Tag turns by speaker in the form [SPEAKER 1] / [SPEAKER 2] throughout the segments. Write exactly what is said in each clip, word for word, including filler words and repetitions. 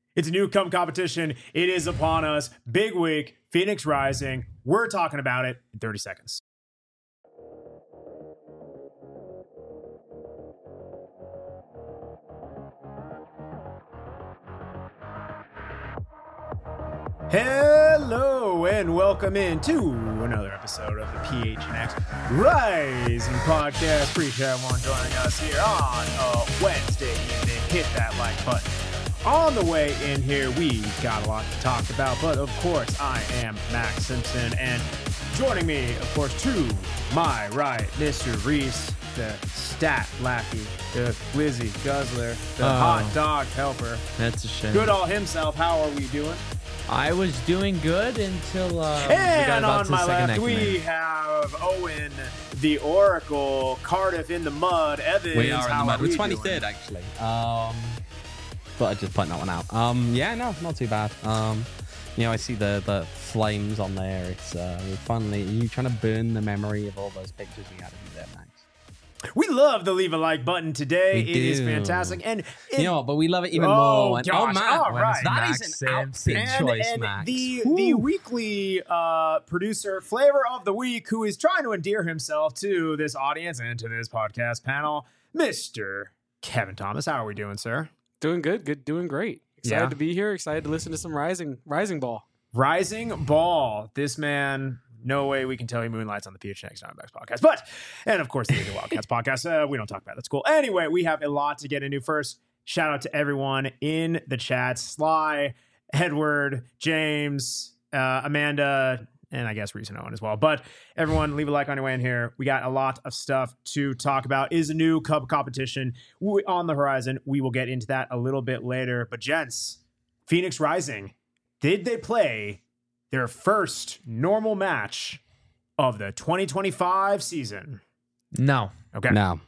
[SPEAKER 1] It's a new cup competition. It is upon us. Big week, Phoenix Rising. We're talking about it in thirty seconds. Hello and welcome in to another episode of the P H N X Rising Podcast. Appreciate everyone joining us here on a Wednesday evening. Hit that like button. On the way in here, we got a lot to talk about, but of course, I am Max Simpson, and joining me, of course, to my right, Mister Reese, the stat lackey, the Lizzie Guzzler, the
[SPEAKER 2] oh,
[SPEAKER 1] hot dog helper.
[SPEAKER 2] That's a shame.
[SPEAKER 1] Goodall himself. How are we doing?
[SPEAKER 2] I was doing good until uh,
[SPEAKER 1] and
[SPEAKER 2] we got
[SPEAKER 1] on my left we
[SPEAKER 2] command.
[SPEAKER 1] have Owen, the Oracle, Cardiff in the mud, Evans.
[SPEAKER 3] We are in the mud.
[SPEAKER 1] We're
[SPEAKER 3] We're twenty-third actually. Um, but I just point that one out. Um, yeah, no, not too bad. Um, you know, I see the the flames on there. It's uh, we're finally you trying to burn the memory of all those pictures we had of you there, Max.
[SPEAKER 1] We love the leave a like button today.
[SPEAKER 3] We
[SPEAKER 1] it is
[SPEAKER 3] do.
[SPEAKER 1] fantastic, and it,
[SPEAKER 3] You know what? But we love it even
[SPEAKER 1] Oh,
[SPEAKER 3] more. When,
[SPEAKER 1] gosh,
[SPEAKER 3] oh man,
[SPEAKER 1] all right.
[SPEAKER 3] that
[SPEAKER 2] Max
[SPEAKER 3] is an outfit
[SPEAKER 1] and,
[SPEAKER 3] choice,
[SPEAKER 1] and
[SPEAKER 3] Max.
[SPEAKER 1] the
[SPEAKER 3] Woo.
[SPEAKER 1] the weekly uh, producer, flavor of the week, who is trying to endear himself to this audience and to this podcast panel, Mister Kevin Thomas. How are we doing, sir?
[SPEAKER 4] Doing good, good, doing great. Excited
[SPEAKER 1] Yeah.
[SPEAKER 4] to be here. Excited to listen to some rising, rising ball.
[SPEAKER 1] Rising Ball. This man, no way we can tell he moonlights on the P H N X Diamondbacks podcast. But, and of course, the Indian Wildcats podcast. Uh, we don't talk about it. That's cool. Anyway, we have a lot to get into. First, shout out to everyone in the chat. Sly, Edward, James, uh, Amanda, and I guess Reese and Owen as well. But everyone, leave a like on your way in here. We got a lot of stuff to talk about. Is a new Cup competition on the horizon. We will get into that a little bit later. But gents, Phoenix Rising, did they play their first normal match of the twenty twenty-five season?
[SPEAKER 2] No,
[SPEAKER 1] Okay.
[SPEAKER 3] No.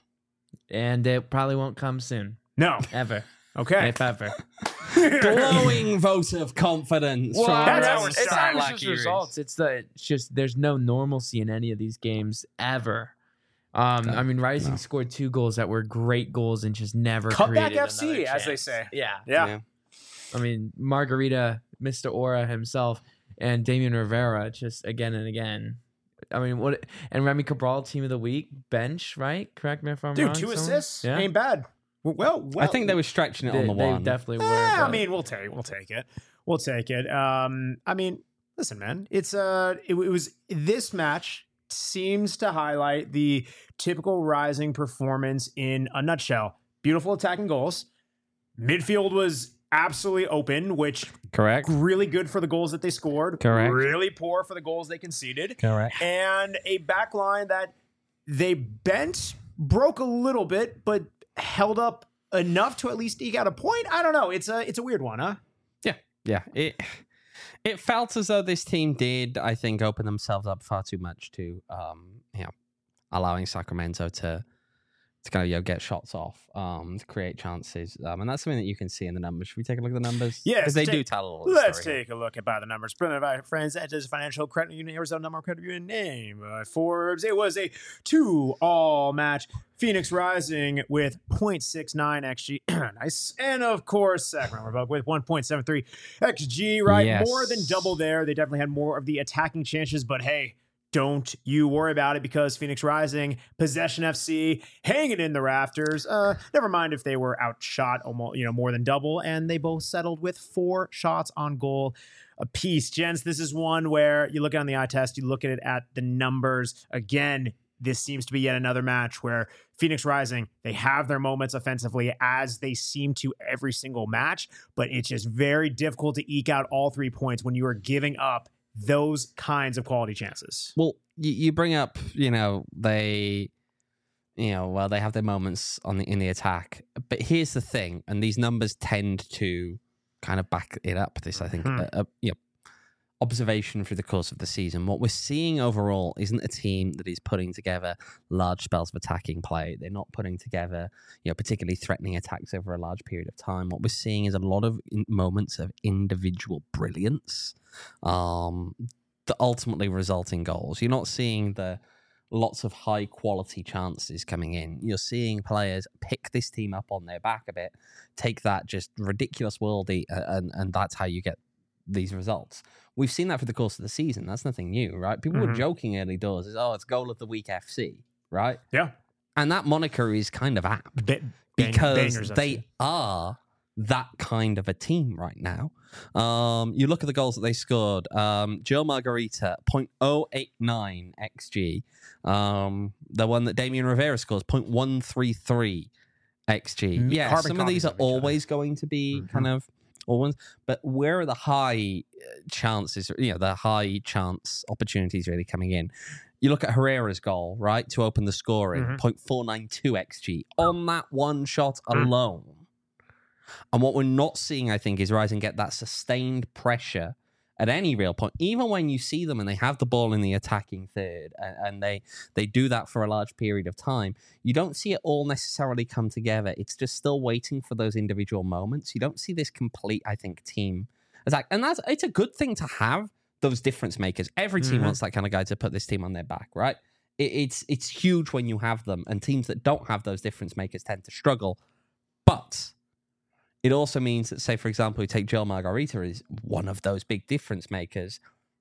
[SPEAKER 2] and it probably won't come soon,
[SPEAKER 1] No.
[SPEAKER 2] ever,
[SPEAKER 1] Okay.
[SPEAKER 2] if ever.
[SPEAKER 3] Glowing vote of confidence.
[SPEAKER 2] Well,
[SPEAKER 3] from
[SPEAKER 1] that's
[SPEAKER 3] our
[SPEAKER 1] how we're
[SPEAKER 2] it's
[SPEAKER 1] starting.
[SPEAKER 2] not
[SPEAKER 3] stat
[SPEAKER 2] just
[SPEAKER 3] lackey
[SPEAKER 2] results. It's the it's just there's no normalcy in any of these games ever. Um,
[SPEAKER 3] No,
[SPEAKER 2] I mean, Rising
[SPEAKER 3] no.
[SPEAKER 2] scored two goals that were great goals and just never
[SPEAKER 1] Cutback
[SPEAKER 2] created
[SPEAKER 1] F C,
[SPEAKER 2] another
[SPEAKER 1] as they
[SPEAKER 2] chance.
[SPEAKER 1] say.
[SPEAKER 2] Yeah,
[SPEAKER 1] Yeah.
[SPEAKER 3] Yeah.
[SPEAKER 2] I mean, Margarita, Mister Aura himself, and Damian Rivera just again and again. I mean, what? And Remy Cabral, team of the week, bench, right? Correct me if I'm
[SPEAKER 1] Dude,
[SPEAKER 2] wrong.
[SPEAKER 1] two
[SPEAKER 2] someone?
[SPEAKER 1] assists.
[SPEAKER 2] Yeah,
[SPEAKER 1] Ain't bad. Well, well.
[SPEAKER 3] I think they were stretching it
[SPEAKER 2] they,
[SPEAKER 3] on the
[SPEAKER 2] they
[SPEAKER 3] one.
[SPEAKER 2] definitely were.
[SPEAKER 1] Eh, I
[SPEAKER 2] but-
[SPEAKER 1] mean, we'll take we'll take it. We'll take it. Um, I mean, listen, man. It's uh it, it was this match seems to highlight the typical Rising performance in a nutshell. Beautiful attacking goals. Midfield was absolutely open, which
[SPEAKER 3] Correct.
[SPEAKER 1] really good for the goals that they scored.
[SPEAKER 3] Correct.
[SPEAKER 1] Really poor for the goals they conceded.
[SPEAKER 3] Correct.
[SPEAKER 1] And a back line that they bent, broke a little bit, but held up enough to at least eke out a point. I don't know. It's a it's a weird one, huh?
[SPEAKER 3] Yeah, yeah. It it felt as though this team did, I think, open themselves up far too much to, um, you know, allowing Sacramento to to kind of you know get shots off, um, to create chances, um, and that's something that you can see in the numbers. Should we take a look at the numbers?
[SPEAKER 1] Yes,
[SPEAKER 3] because they
[SPEAKER 1] take-
[SPEAKER 3] do tell a lot. Of the
[SPEAKER 1] Let's
[SPEAKER 3] story.
[SPEAKER 1] take a look at by the numbers. Presented by friends at this financial credit union, Arizona number credit union name by Forbes. It was a two-all match. Phoenix Rising with point six nine X G. Nice. And of course, Sacramento Republic with one point seven three X G, right?
[SPEAKER 3] Yes.
[SPEAKER 1] More than double there. They definitely had more of the attacking chances, but hey, don't you worry about it because Phoenix Rising, Possession F C, hanging in the rafters. Uh, never mind if they were outshot almost, you know, more than double, and they both settled with four shots on goal apiece. Gents, this is one where you look at it on the eye test, you look at it at the numbers. Again, this seems to be yet another match where Phoenix Rising, they have their moments offensively as they seem to every single match, but it's just very difficult to eke out all three points when you are giving up those kinds of quality chances.
[SPEAKER 3] Well, you, you bring up, you know, they, you know, well, they have their moments on the in the attack, but here's the thing, and these numbers tend to kind of back it up. This, I think,
[SPEAKER 1] Hmm.
[SPEAKER 3] uh, uh, you know, observation through the course of the season. What we're seeing overall isn't a team that is putting together large spells of attacking play. They're not putting together, you know, particularly threatening attacks over a large period of time. What we're seeing is a lot of in- moments of individual brilliance, um, that ultimately result in goals. You're not seeing the lots of high quality chances coming in. You're seeing players pick this team up on their back a bit, take that just ridiculous worldie, uh, and, and that's how you get these results. We've seen that for the course of the season. That's nothing new, right? People
[SPEAKER 1] Mm-hmm.
[SPEAKER 3] were joking early doors, is, oh, it's goal of the week F C, right?
[SPEAKER 1] Yeah.
[SPEAKER 3] And that moniker is kind of apt
[SPEAKER 1] Ba- bang-
[SPEAKER 3] because
[SPEAKER 1] bangers,
[SPEAKER 3] they
[SPEAKER 1] actually.
[SPEAKER 3] are that kind of a team right now. Um, you look at the goals that they scored. Um, Joe Margarita, zero point zero eight nine X G. Um, the one that Damian Rivera scores, zero point one three three X G.
[SPEAKER 1] Mm,
[SPEAKER 3] Yeah,
[SPEAKER 1] carbon
[SPEAKER 3] some of these
[SPEAKER 1] copies
[SPEAKER 3] are
[SPEAKER 1] of each other.
[SPEAKER 3] always going to be
[SPEAKER 1] Mhm.
[SPEAKER 3] kind of all ones, but where are the high uh, chances, you know, the high chance opportunities really coming in? You look at Herrera's goal, right, to open the scoring,
[SPEAKER 1] Mhm.
[SPEAKER 3] zero point four nine two X G on that one shot
[SPEAKER 1] Mm.
[SPEAKER 3] alone. And what we're not seeing, I think, is Rising get that sustained pressure at any real point, even when you see them and they have the ball in the attacking third and, and they they do that for a large period of time. You don't see it all necessarily come together. It's just still waiting for those individual moments. You don't see this complete, I think, team attack. And that's it's a good thing to have those difference makers. Every team
[SPEAKER 1] Mhm.
[SPEAKER 3] wants that kind of guy to put this team on their back, right? It, it's it's huge when you have them, and teams that don't have those difference makers tend to struggle. But it also means that, say, for example, we take Joel Margarita as one of those big difference makers.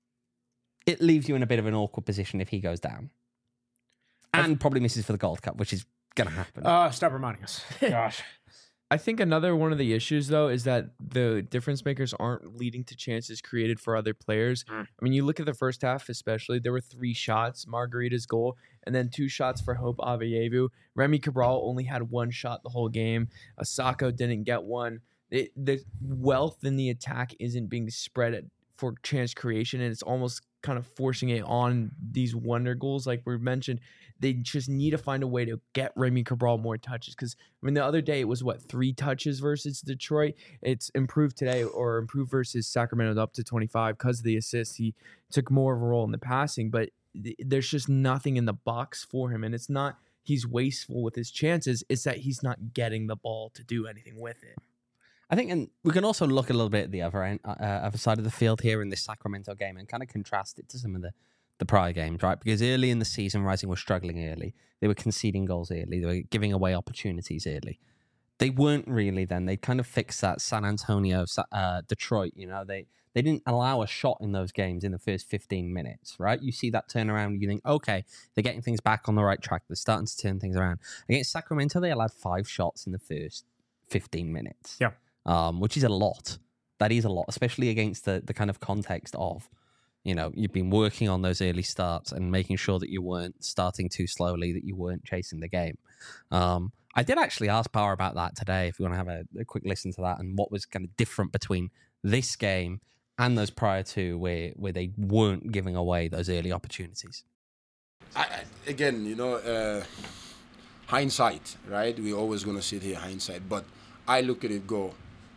[SPEAKER 3] It leaves you in a bit of an awkward position if he goes down. And probably misses for the Gold Cup, which is going to happen.
[SPEAKER 1] Uh, stop reminding us. Gosh.
[SPEAKER 2] I think another one of the issues, though, is that the difference makers aren't leading to chances created for other players.
[SPEAKER 1] Mm.
[SPEAKER 2] I mean, you look at the first half, especially, there were three shots, Margarita's goal, and then two shots for Hope Aveyevu. Remy Cabral only had one shot the whole game. Asako didn't get one. It, the wealth in the attack isn't being spread at, for chance creation, and it's almost kind of forcing it on these wonder goals. Like we mentioned, they just need to find a way to get Remy Cabral more touches. Because, I mean, the other day it was, what, three touches versus Detroit? It's improved today, or improved versus Sacramento up to twenty-five because of the assist. He took more of a role in the passing, but th- there's just nothing in the box for him. And it's not he's wasteful with his chances. It's that he's not getting the ball to do anything with it.
[SPEAKER 3] I think, and we can also look a little bit at the other end, uh, other side of the field here in this Sacramento game and kind of contrast it to some of the, the prior games, right? Because early in the season, Rising was struggling early. They were conceding goals early. They were giving away opportunities early. They weren't really then. They kind of fixed that. San Antonio, uh, Detroit, you know, they, they didn't allow a shot in those games in the first fifteen minutes, right? You see that turnaround, you think, okay, they're getting things back on the right track. They're starting to turn things around. Against Sacramento, they allowed five shots in the first fifteen minutes.
[SPEAKER 1] Yeah.
[SPEAKER 3] Um, which is a lot. That is a lot, especially against the, the kind of context of, you know, you've been working on those early starts and making sure that you weren't starting too slowly, that you weren't chasing the game. Um, I did actually ask Power about that today, if you want to have a, a quick listen to that and what was kind of different between this game and those prior to where, where they weren't giving away those early opportunities.
[SPEAKER 5] I, I- again, you know, uh, hindsight, right? We're always going to sit here hindsight, but I look at it go,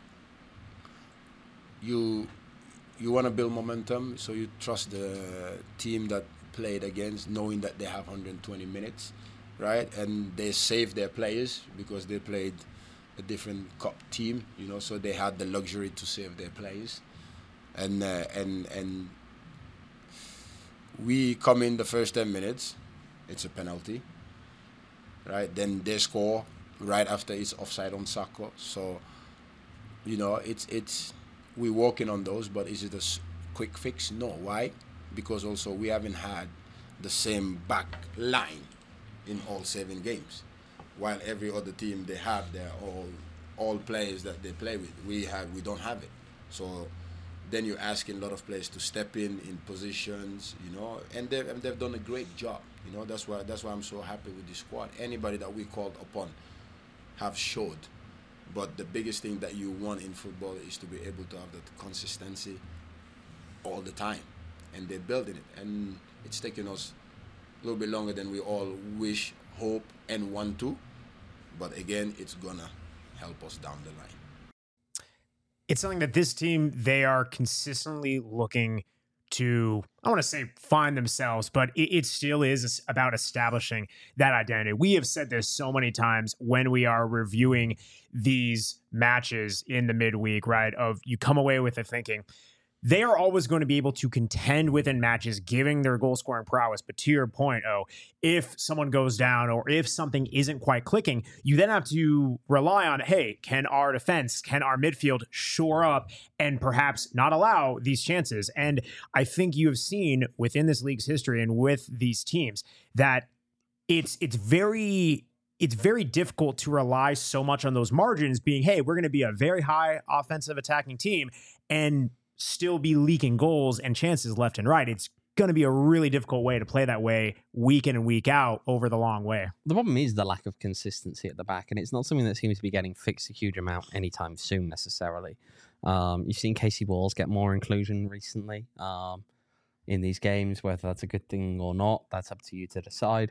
[SPEAKER 5] you you want to build momentum, so you trust the team that played against, knowing that they have one hundred twenty minutes, right? And they saved their players because they played a different cup team, you know, so they had the luxury to save their players. And uh, and and we come in the first ten minutes, it's a penalty, right? Then they score right after it's offside on Sako. So, you know, it's it's we're working on those, but is it a s- quick fix? No. Why? Because also we haven't had the same back line in all seven games. While every other team they have, they're all all players that they play with. We have we don't have it. So then you're asking a lot of players to step in in positions, you know, and they've and they've done a great job. You know, that's why that's why I'm so happy with the squad. Anybody that we called upon have showed. But the biggest thing that you want in football is to be able to have that consistency all the time, and they're building it. And it's taking us a little bit longer than we all wish, hope, and want to. But again, it's gonna help us down the line.
[SPEAKER 1] It's something that this team, they are consistently looking to, I want to say find themselves, but it, it still is about establishing that identity. We have said this so many times when we are reviewing these matches in the midweek, right? Of you come away with the thinking, they are always going to be able to contend within matches, giving their goal scoring prowess. But to your point, oh, if someone goes down or if something isn't quite clicking, you then have to rely on, hey, can our defense, can our midfield shore up and perhaps not allow these chances? And I think you have seen within this league's history and with these teams that it's it's very it's very difficult to rely so much on those margins being, hey, we're going to be a very high offensive attacking team and still be leaking goals and chances left and right. It's going to be a really difficult way to play that way week in and week out over the long way.
[SPEAKER 3] The problem is the lack of consistency at the back, and it's not something that seems to be getting fixed a huge amount anytime soon necessarily. Um, you've seen Casey Walls get more inclusion recently um, in these games. Whether that's a good thing or not, that's up to you to decide.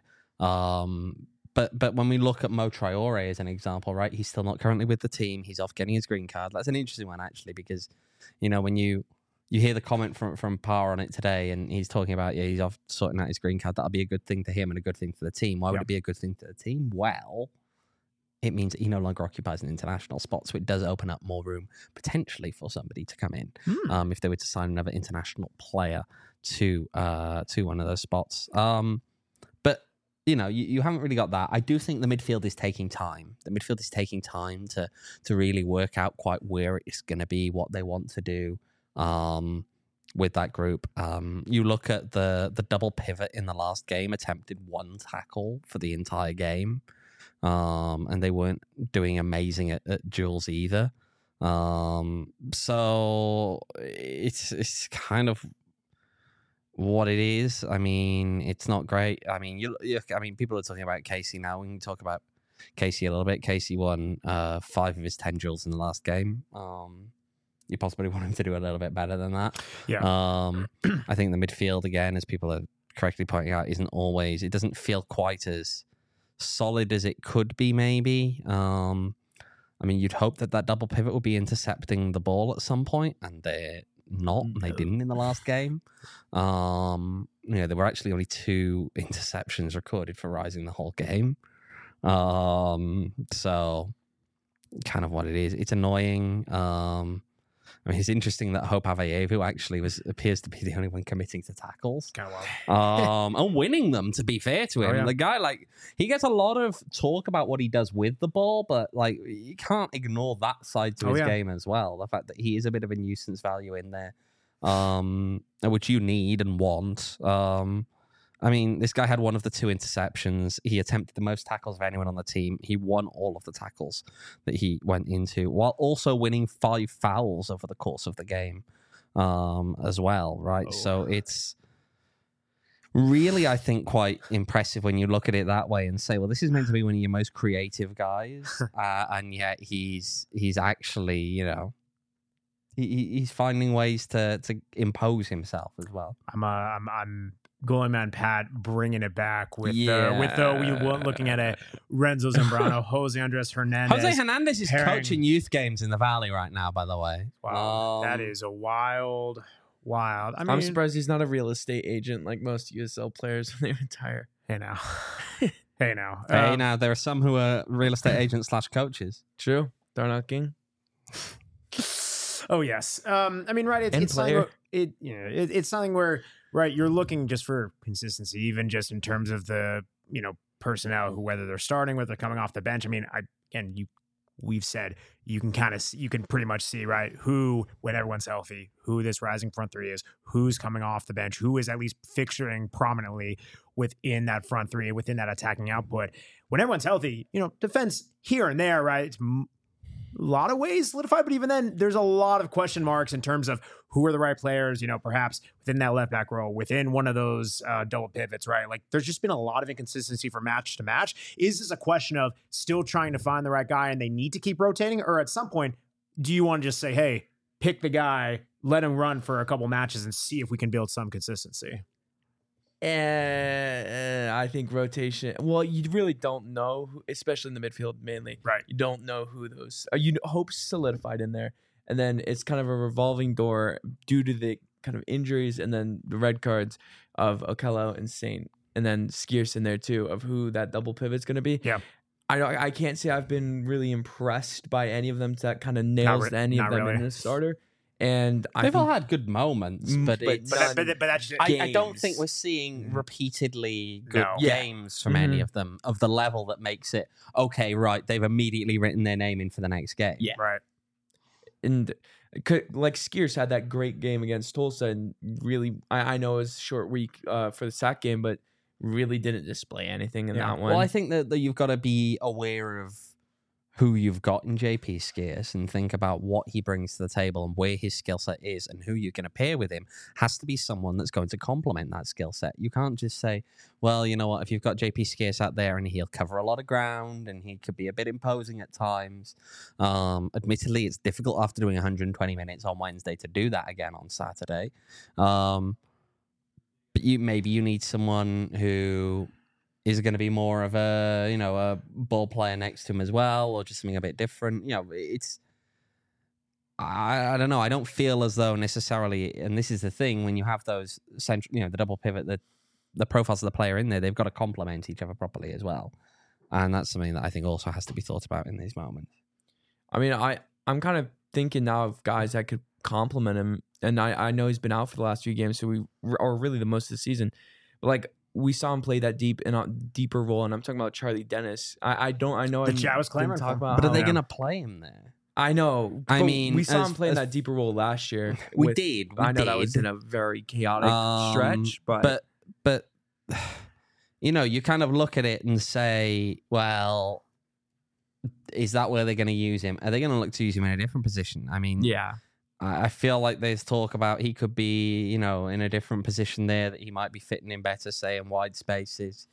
[SPEAKER 3] Um, but but when we look at Mo Traore as an example, right, he's still not currently with the team. He's off getting his green card. That's an interesting one, actually, because, you know, when you you hear the comment from, from Power on it today, and he's talking about, yeah, he's off sorting out his green card, that'll be a good thing to him and a good thing for the team. Why would
[SPEAKER 1] Yep.
[SPEAKER 3] it be a good thing to the team? Well, it means that he no longer occupies an international spot, so it does open up more room potentially for somebody to come in
[SPEAKER 1] Hmm.
[SPEAKER 3] um, if they were to sign another international player to uh, to one of those spots. Um, but, you know, you, you haven't really got that. I do think the midfield is taking time. The midfield is taking time to to really work out quite where it's going to be, what they want to do um, with that group. Um, you look at the the double pivot in the last game, attempted one tackle for the entire game. Um, and they weren't doing amazing at, at duels either. Um, so it's it's kind of what it is. I mean, it's not great. I mean, you, you I mean, people are talking about Casey now. We can talk about Casey a little bit. Casey won uh, five of his ten duels in the last game. Um, you possibly want him to do a little bit better than that.
[SPEAKER 1] Yeah.
[SPEAKER 3] Um, I think the midfield, again, as people are correctly pointing out, isn't always. It doesn't feel quite as solid as it could be, maybe. Um, I mean, you'd hope that that double pivot would be intercepting the ball at some point, and they're not. And they
[SPEAKER 1] No.
[SPEAKER 3] didn't in the last game. Um, you know, there were actually only two interceptions recorded for Rising the whole game. Um, so, kind of what it is. It's annoying. Um, I mean, it's interesting that Hope Avayevu actually was appears to be the only one committing to tackles.
[SPEAKER 1] Kind of wild.
[SPEAKER 3] um, and winning them, to be fair to him.
[SPEAKER 1] Oh, yeah.
[SPEAKER 3] The guy, like, he gets a lot of talk about what he does with the ball, but, like, you can't ignore that side to
[SPEAKER 1] Oh,
[SPEAKER 3] his
[SPEAKER 1] yeah.
[SPEAKER 3] game as well. The fact that he is a bit of a nuisance value in there, um, which you need and want. Um, I mean, this guy had one of the two interceptions. He attempted the most tackles of anyone on the team. He won all of the tackles that he went into, while also winning five fouls over the course of the game um, as well, right?
[SPEAKER 1] Oh.
[SPEAKER 3] So it's really, I think, quite impressive when you look at it that way and say, well, this is meant to be one of your most creative guys, uh, and yet he's he's actually, you know, he, he- he's finding ways to to impose himself as well.
[SPEAKER 1] I'm uh, I'm I'm Goalie Man Pat bringing it back with the with the we were looking at a Renzo Zambrano, Jose Andres Hernandez.
[SPEAKER 3] Jose Hernandez is
[SPEAKER 1] pairing-
[SPEAKER 3] coaching youth games in the Valley right now, by the way.
[SPEAKER 1] Wow, that
[SPEAKER 3] Um,
[SPEAKER 1] is a wild, wild. I mean,
[SPEAKER 2] I'm surprised he's not a real estate agent like most U S L players when they retire.
[SPEAKER 1] Hey now, hey now,
[SPEAKER 3] Hey,
[SPEAKER 1] Um,
[SPEAKER 3] now there are some who are real estate agents slash coaches.
[SPEAKER 2] True. Darnell King.
[SPEAKER 1] Oh yes. Um, I mean, right. It's,
[SPEAKER 2] And
[SPEAKER 1] it's something
[SPEAKER 2] player.
[SPEAKER 1] where, it you know it, it's something where right you're looking just for consistency, even just in terms of the you know personnel, who whether they're starting, whether they're coming off the bench. I mean, I again you we've said you can kind of you can pretty much see right who when everyone's healthy, who this rising front three is, who's coming off the bench, who is at least fixturing prominently within that front three, within that attacking output. When everyone's healthy, you know, defense here and there, right? It's m- a lot of ways solidified, but even then, there's a lot of question marks in terms of who are the right players, you know, perhaps within that left back row, within one of those uh, double pivots, right? Like there's just been a lot of inconsistency from match to match. Is this a question of still trying to find the right guy and they need to keep rotating? Or at some point, do you want to just say, hey, pick the guy, let him run for a couple matches and see if we can build some consistency?
[SPEAKER 2] And I think rotation. Well, you really don't know, who, especially in the midfield mainly.
[SPEAKER 1] Right.
[SPEAKER 2] You don't know who those. Uh, you hope solidified in there, and then it's kind of a revolving door due to the kind of injuries and then the red cards of Okello and Saint, and then Skier's in there too of who that double pivot's going to be.
[SPEAKER 1] Yeah.
[SPEAKER 2] I don't. I can't say I've been really impressed by any of them that kind of nails
[SPEAKER 1] re-
[SPEAKER 2] any of
[SPEAKER 1] not
[SPEAKER 2] them
[SPEAKER 1] really.
[SPEAKER 2] in the starter. And I
[SPEAKER 3] They've
[SPEAKER 2] think,
[SPEAKER 3] all had good moments,
[SPEAKER 2] Mm,
[SPEAKER 3] but,
[SPEAKER 2] but
[SPEAKER 3] it's,
[SPEAKER 1] But that, but, that- but that's just,
[SPEAKER 3] I, I don't think
[SPEAKER 2] games.
[SPEAKER 3] we're seeing
[SPEAKER 1] Mm.
[SPEAKER 3] repeatedly good
[SPEAKER 1] No.
[SPEAKER 2] Yeah.
[SPEAKER 3] games from any
[SPEAKER 2] Mhm.
[SPEAKER 3] of them of the level that makes it okay. Right, they've immediately written their name in for the next game.
[SPEAKER 2] Yeah.
[SPEAKER 1] right.
[SPEAKER 2] and c- like Skiers had that great game against Tulsa, and really, I, I know it was a short week uh, for the sack game, but really didn't display anything in
[SPEAKER 1] Yeah.
[SPEAKER 2] that one.
[SPEAKER 3] Well, I think that, that you've got to be aware of who you've got in J P Skiers and think about what he brings to the table and where his skill set is, and who you're going to pair with him has to be someone that's going to complement that skill set. You can't just say, well, you know what, if you've got J P Skiers out there and he'll cover a lot of ground and he could be a bit imposing at times. Um, admittedly, it's difficult after doing one hundred twenty minutes on Wednesday to do that again on Saturday. Um, but you maybe you need someone who is going to be more of a, you know, a ball player next to him as well, or just something a bit different. You know, it's, I, I don't know. I don't feel as though necessarily, and this is the thing, when you have those central, you know, the double pivot, the, the profiles of the player in there, they've got to complement each other properly as well. And that's something that I think also has to be thought about in these moments.
[SPEAKER 2] I mean, I, I'm kind of thinking now of guys that could complement him. And I, I know he's been out for the last few games, so we, or really the most of the season. But like, we saw him play that deep in a deeper role, and I'm talking about Charlie Dennis. I, I don't, I know
[SPEAKER 1] The
[SPEAKER 2] I
[SPEAKER 1] chat was clamoring
[SPEAKER 2] didn't talk
[SPEAKER 1] for him.
[SPEAKER 2] about
[SPEAKER 3] But are
[SPEAKER 2] how-
[SPEAKER 3] they
[SPEAKER 1] yeah.
[SPEAKER 3] going to play him there?
[SPEAKER 2] I know.
[SPEAKER 3] I
[SPEAKER 2] but
[SPEAKER 3] mean,
[SPEAKER 2] we saw
[SPEAKER 3] as-
[SPEAKER 2] him play in
[SPEAKER 3] as-
[SPEAKER 2] that deeper role last year.
[SPEAKER 3] We
[SPEAKER 2] with-
[SPEAKER 3] did. We
[SPEAKER 2] I know
[SPEAKER 3] did.
[SPEAKER 2] that was in a very chaotic
[SPEAKER 3] Um,
[SPEAKER 2] stretch, but,
[SPEAKER 3] but but you know, you kind of look at it and say, well, is that where they're going to use him? Are they going to look to use him in a different position? I mean,
[SPEAKER 2] yeah,
[SPEAKER 3] I I feel like there's talk about he could be, you know, in a different position there, that he might be fitting in better, say, in wide spaces.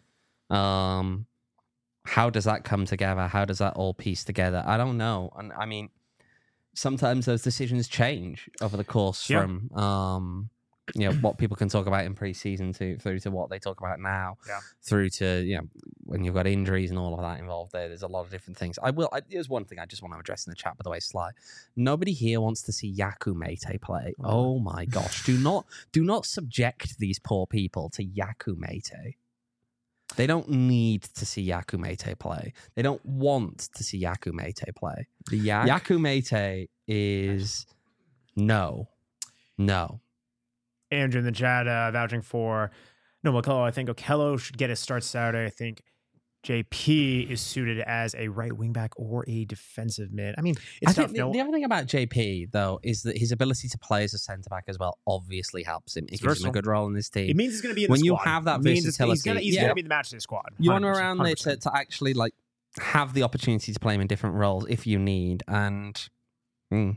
[SPEAKER 3] Um, how does that come together? How does that all piece together? I don't know. And I mean, sometimes those decisions change over the course
[SPEAKER 1] Yeah.
[SPEAKER 3] from, um, you know, what people can talk about in preseason to through to what they talk about now,
[SPEAKER 1] Yeah.
[SPEAKER 3] through to, you know, when you've got injuries and all of that involved there. There's a lot of different things. I will. I, there's one thing I just want to address in the chat, by the way, Sly. Nobody here wants to see Yaku Mate play. Oh my gosh! Do not, do not subject these poor people to Yaku Mate. They don't need to see Yaku Mate play. They don't want to see Yaku Mate play.
[SPEAKER 2] the yak.
[SPEAKER 3] Yaku Mate is no, no.
[SPEAKER 1] Andrew in the chat uh, vouching for no Okello. I think Okello should get his start Saturday. I think J P is suited as a right wing back or a defensive mid. I mean, it's
[SPEAKER 3] I
[SPEAKER 1] tough.
[SPEAKER 3] think the,
[SPEAKER 1] no,
[SPEAKER 3] the other thing about J P though is that his ability to play as a centre back as well obviously helps him. It
[SPEAKER 1] It's
[SPEAKER 3] gives him
[SPEAKER 1] versatile.
[SPEAKER 3] a good role in this team.
[SPEAKER 1] it means he's going to be in
[SPEAKER 3] when
[SPEAKER 1] the
[SPEAKER 3] you
[SPEAKER 1] squad.
[SPEAKER 3] have that
[SPEAKER 1] It means it's-
[SPEAKER 3] versatility,
[SPEAKER 1] he's going to he's
[SPEAKER 3] yeah.
[SPEAKER 1] going to be the match day squad.
[SPEAKER 3] you want
[SPEAKER 1] one hundred percent,
[SPEAKER 3] around there
[SPEAKER 1] one hundred
[SPEAKER 3] to,
[SPEAKER 1] percent.
[SPEAKER 3] to actually like have the opportunity to play him in different roles if you need. And mm,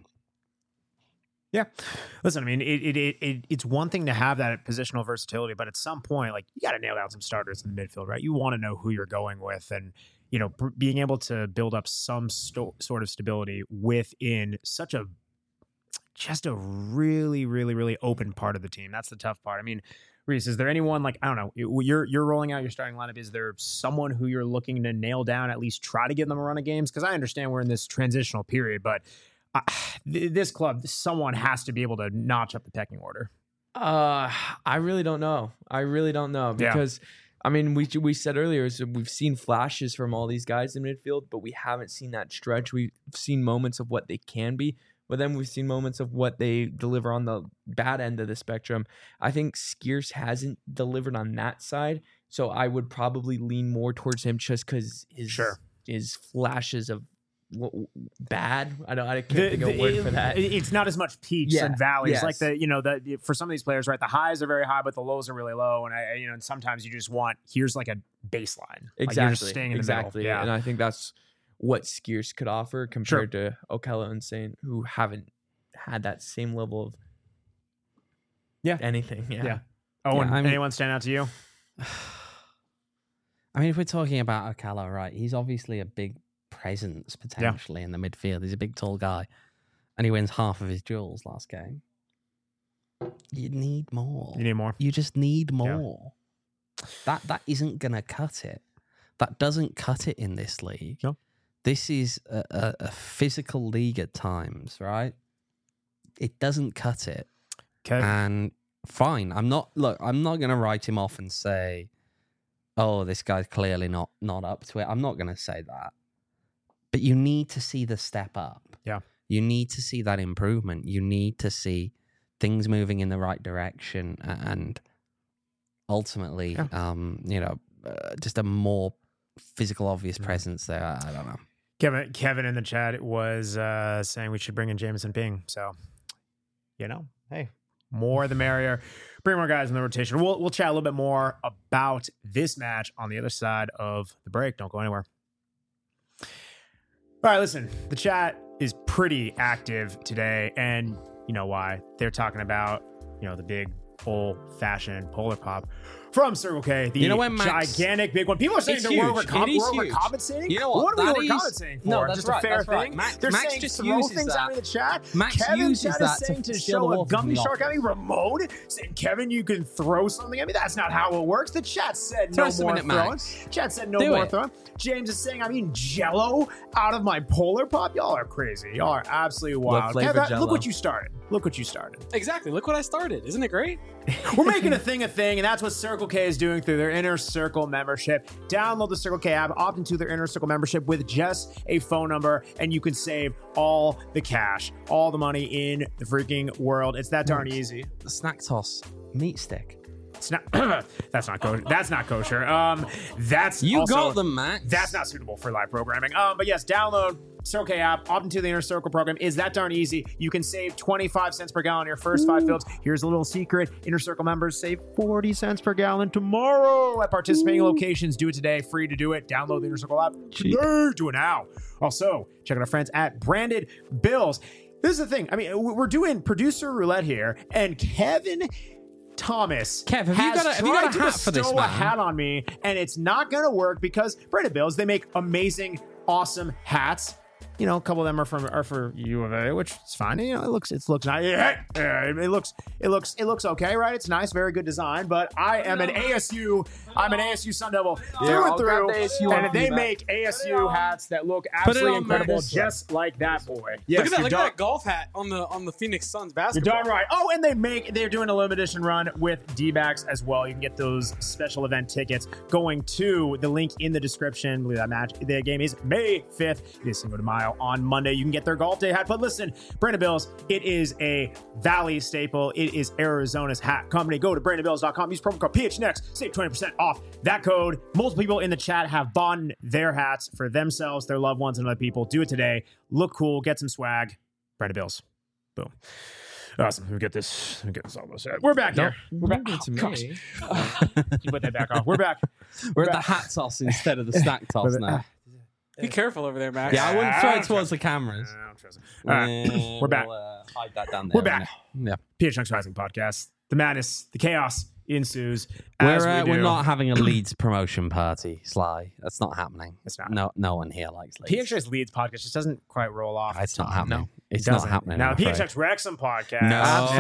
[SPEAKER 1] Yeah. Listen, I mean, it, it it it it's one thing to have that positional versatility, but at some point, like, you got to nail down some starters in the midfield, right? You want to know who you're going with, and you know, pr- being able to build up some sto- sort of stability within such a just a really, really, really open part of the team. That's the tough part. I mean, Reese, is there anyone like I don't know? You're you're rolling out your starting lineup. Is there someone who you're looking to nail down? At least try to give them a run of games, because I understand we're in this transitional period, but. I, th- this club, someone has to be able to notch up the pecking order.
[SPEAKER 2] Uh, I really don't know. I really don't know
[SPEAKER 1] Yeah.
[SPEAKER 2] because, I mean, we we said earlier is that we've seen flashes from all these guys in midfield, but we haven't seen that stretch. We've seen moments of what they can be, but then we've seen moments of what they deliver on the bad end of the spectrum. I think Skiers hasn't delivered on that side, so I would probably lean more towards him just because his
[SPEAKER 1] Sure.
[SPEAKER 2] his flashes of w- w- bad. I don't. I can't
[SPEAKER 1] The-
[SPEAKER 2] think of a
[SPEAKER 1] the-
[SPEAKER 2] word
[SPEAKER 1] it-
[SPEAKER 2] for that.
[SPEAKER 1] It's not as much peaks
[SPEAKER 2] Yeah,
[SPEAKER 1] and valleys.
[SPEAKER 2] yes.
[SPEAKER 1] Like the, you know, the for some of these players, right? The highs are very high, but the lows are really low. And I, you know, and sometimes you just want here's like a baseline. Like
[SPEAKER 2] Exactly.
[SPEAKER 1] you're just staying in the
[SPEAKER 2] exactly.
[SPEAKER 1] middle.
[SPEAKER 2] And
[SPEAKER 1] Yeah.
[SPEAKER 2] I think that's what Skiers could offer compared to Okello and Saint, who haven't had that same level of
[SPEAKER 1] Yeah.
[SPEAKER 2] anything. Yeah.
[SPEAKER 1] Yeah. Owen,
[SPEAKER 3] I mean-
[SPEAKER 1] anyone stand out to you?
[SPEAKER 3] I mean, if we're talking about Ocala, right, he's obviously a big presence potentially in the midfield. He's a big, tall guy, and he wins half of his duels last game. You need more.
[SPEAKER 1] You need more.
[SPEAKER 3] You just need more. That that isn't gonna cut it. That doesn't cut it in this league.
[SPEAKER 1] No.
[SPEAKER 3] This is a, a, a physical league at times, right? It doesn't cut it.
[SPEAKER 1] Okay.
[SPEAKER 3] And fine, I'm not. Look, I'm not gonna write him off and say, "Oh, this guy's clearly not not up to it." I'm not gonna say that. But you need to see the step up.
[SPEAKER 1] Yeah.
[SPEAKER 3] You need to see that improvement. You need to see things moving in the right direction, and ultimately,
[SPEAKER 1] Yeah.
[SPEAKER 3] um, you know, uh, just a more physical, obvious presence there. I, I don't know.
[SPEAKER 1] Kevin, Kevin in the chat was uh, saying we should bring in Jameson Ping. So, you know, hey, more the merrier. Bring more guys in the rotation. We'll we'll chat a little bit more about this match on the other side of the break. Don't go anywhere. All right, listen, the chat is pretty active today, and you know why. They're talking about, you know, the big old-fashioned Polar Pop from Circle K, the
[SPEAKER 3] You know when Max-
[SPEAKER 1] gigantic big one. People are saying
[SPEAKER 3] It's
[SPEAKER 1] that we're,
[SPEAKER 3] huge.
[SPEAKER 1] overcom-
[SPEAKER 3] It is
[SPEAKER 1] we're
[SPEAKER 3] huge.
[SPEAKER 1] overcompensating.
[SPEAKER 3] You know what?
[SPEAKER 1] What are we
[SPEAKER 3] That is-
[SPEAKER 1] overcompensating for?
[SPEAKER 3] No, that's
[SPEAKER 1] just
[SPEAKER 3] right,
[SPEAKER 1] a fair
[SPEAKER 3] that's right.
[SPEAKER 1] thing.
[SPEAKER 3] Max-
[SPEAKER 1] They're
[SPEAKER 3] Max
[SPEAKER 1] saying
[SPEAKER 3] just
[SPEAKER 1] throw
[SPEAKER 3] uses
[SPEAKER 1] things out
[SPEAKER 3] that.
[SPEAKER 1] in the chat.
[SPEAKER 3] Max
[SPEAKER 1] Kevin
[SPEAKER 3] uses
[SPEAKER 1] chat is
[SPEAKER 3] that to
[SPEAKER 1] saying to,
[SPEAKER 3] steal
[SPEAKER 1] show
[SPEAKER 3] the
[SPEAKER 1] a
[SPEAKER 3] wolf from
[SPEAKER 1] gummy
[SPEAKER 3] the
[SPEAKER 1] shark at me.
[SPEAKER 3] office.
[SPEAKER 1] Ramon saying, Kevin, you can throw something at me. That's not how it works. The chat said
[SPEAKER 3] Throw
[SPEAKER 1] no
[SPEAKER 3] something
[SPEAKER 1] more
[SPEAKER 3] at
[SPEAKER 1] throwing.
[SPEAKER 3] Max.
[SPEAKER 1] Chat said no
[SPEAKER 3] Do
[SPEAKER 1] more
[SPEAKER 3] it.
[SPEAKER 1] throwing. James is saying, I'm eating Jello out of my Polar Pop. Y'all are crazy. Y'all are absolutely wild.
[SPEAKER 2] flavored
[SPEAKER 1] Kevin,
[SPEAKER 2] Jell-O.
[SPEAKER 1] look what you started. Look what you started.
[SPEAKER 4] Exactly. Look what I started. Isn't it great?
[SPEAKER 1] We're making a thing a thing, and that's what Circle K is doing through their Inner Circle membership. Download the Circle K app, opt into their Inner Circle membership with just a phone number, and you can save all the cash, all the money in the freaking world. It's that darn easy.
[SPEAKER 3] The snack toss meat stick.
[SPEAKER 1] It's not. That's not kosher. That's not kosher. Um, that's
[SPEAKER 3] You
[SPEAKER 1] also,
[SPEAKER 3] got them, Max.
[SPEAKER 1] That's not suitable for live programming. Um, but yes, download Circle K app, opt into the Inner Circle program. Is that darn easy? You can save twenty-five cents per gallon on your first five fills. Here's a little secret: Inner Circle members save forty cents per gallon tomorrow at participating locations. Do it today. Free to do it. Download the Inner Circle app today. Do it now. Also, check out our friends at Branded Bills. This is the thing. I mean, we're doing producer roulette here, and Kevin Thomas
[SPEAKER 3] Kev, have you
[SPEAKER 1] has
[SPEAKER 3] got a- have you got a
[SPEAKER 1] tried to
[SPEAKER 3] hat for this,
[SPEAKER 1] bestow a
[SPEAKER 3] man?
[SPEAKER 1] hat on me, and it's not going to work because Branded Bills, they make amazing, awesome hats. You know, a couple of them are from are for U of A, which is fine. You know, it looks it looks nice. Yeah, yeah, it looks it looks it looks okay, right? It's nice, very good design. But I am an A S U. I'm an A S U Sun Devil through
[SPEAKER 2] Yeah,
[SPEAKER 1] and
[SPEAKER 2] I'll grab
[SPEAKER 1] through,
[SPEAKER 2] the A S U one
[SPEAKER 1] and
[SPEAKER 2] for
[SPEAKER 1] they
[SPEAKER 2] you, Matt.
[SPEAKER 1] make A S U hats that look
[SPEAKER 3] it
[SPEAKER 1] absolutely
[SPEAKER 3] on,
[SPEAKER 1] incredible,
[SPEAKER 3] Matt.
[SPEAKER 1] just like that boy. Yes,
[SPEAKER 4] look at that!
[SPEAKER 1] you're
[SPEAKER 4] Look
[SPEAKER 1] darn-
[SPEAKER 4] at that golf hat on the on the Phoenix Suns
[SPEAKER 1] You're
[SPEAKER 4] basketball.
[SPEAKER 1] darn right. Oh, and they make they're doing a limited edition run with D-backs as well. You can get those special event tickets going to the link in the description. I believe that match the game is May fifth. It is Cinco de Mayo on Monday. You can get their golf day hat. But listen, Branded Bills, it is a Valley staple. It is Arizona's hat company. Go to branded bills dot com. Use promo code P H N X. Save twenty percent off that code. Multiple people in the chat have bought their hats for themselves, their loved ones, and other people. Do it today. Look cool. Get some swag. Branded Bills. Boom. Awesome. Let me get this. Let me get this almost set. We're back here. We're back.
[SPEAKER 2] Give it to
[SPEAKER 1] Oh, gosh.
[SPEAKER 2] me.
[SPEAKER 1] You put that back off. We're back.
[SPEAKER 3] We're at the
[SPEAKER 1] back.
[SPEAKER 3] hat toss instead of the snack toss now.
[SPEAKER 4] Be careful over there, Max.
[SPEAKER 3] Yeah, I wouldn't
[SPEAKER 1] I
[SPEAKER 3] throw
[SPEAKER 1] don't
[SPEAKER 3] it towards the cameras.
[SPEAKER 1] I don't trust him. All right.
[SPEAKER 3] Eh,
[SPEAKER 1] We're back.
[SPEAKER 3] We'll, uh, hide that down there.
[SPEAKER 1] We're back.
[SPEAKER 3] Yeah.
[SPEAKER 1] P H X Rising podcast. The madness, the chaos ensues. as
[SPEAKER 3] We're, uh,
[SPEAKER 1] we
[SPEAKER 3] we're
[SPEAKER 1] do.
[SPEAKER 3] not having a Leeds promotion party, Sly. That's not happening.
[SPEAKER 1] It's not.
[SPEAKER 3] No, no one here likes Leeds.
[SPEAKER 1] P H X Leads podcast just doesn't quite roll off.
[SPEAKER 3] It's not
[SPEAKER 1] No,
[SPEAKER 3] happening.
[SPEAKER 1] it
[SPEAKER 3] It's not
[SPEAKER 1] doesn't.
[SPEAKER 3] happening.
[SPEAKER 1] Now,
[SPEAKER 3] I'm
[SPEAKER 1] the P H
[SPEAKER 3] afraid.
[SPEAKER 1] X Wrexham podcast.
[SPEAKER 3] No.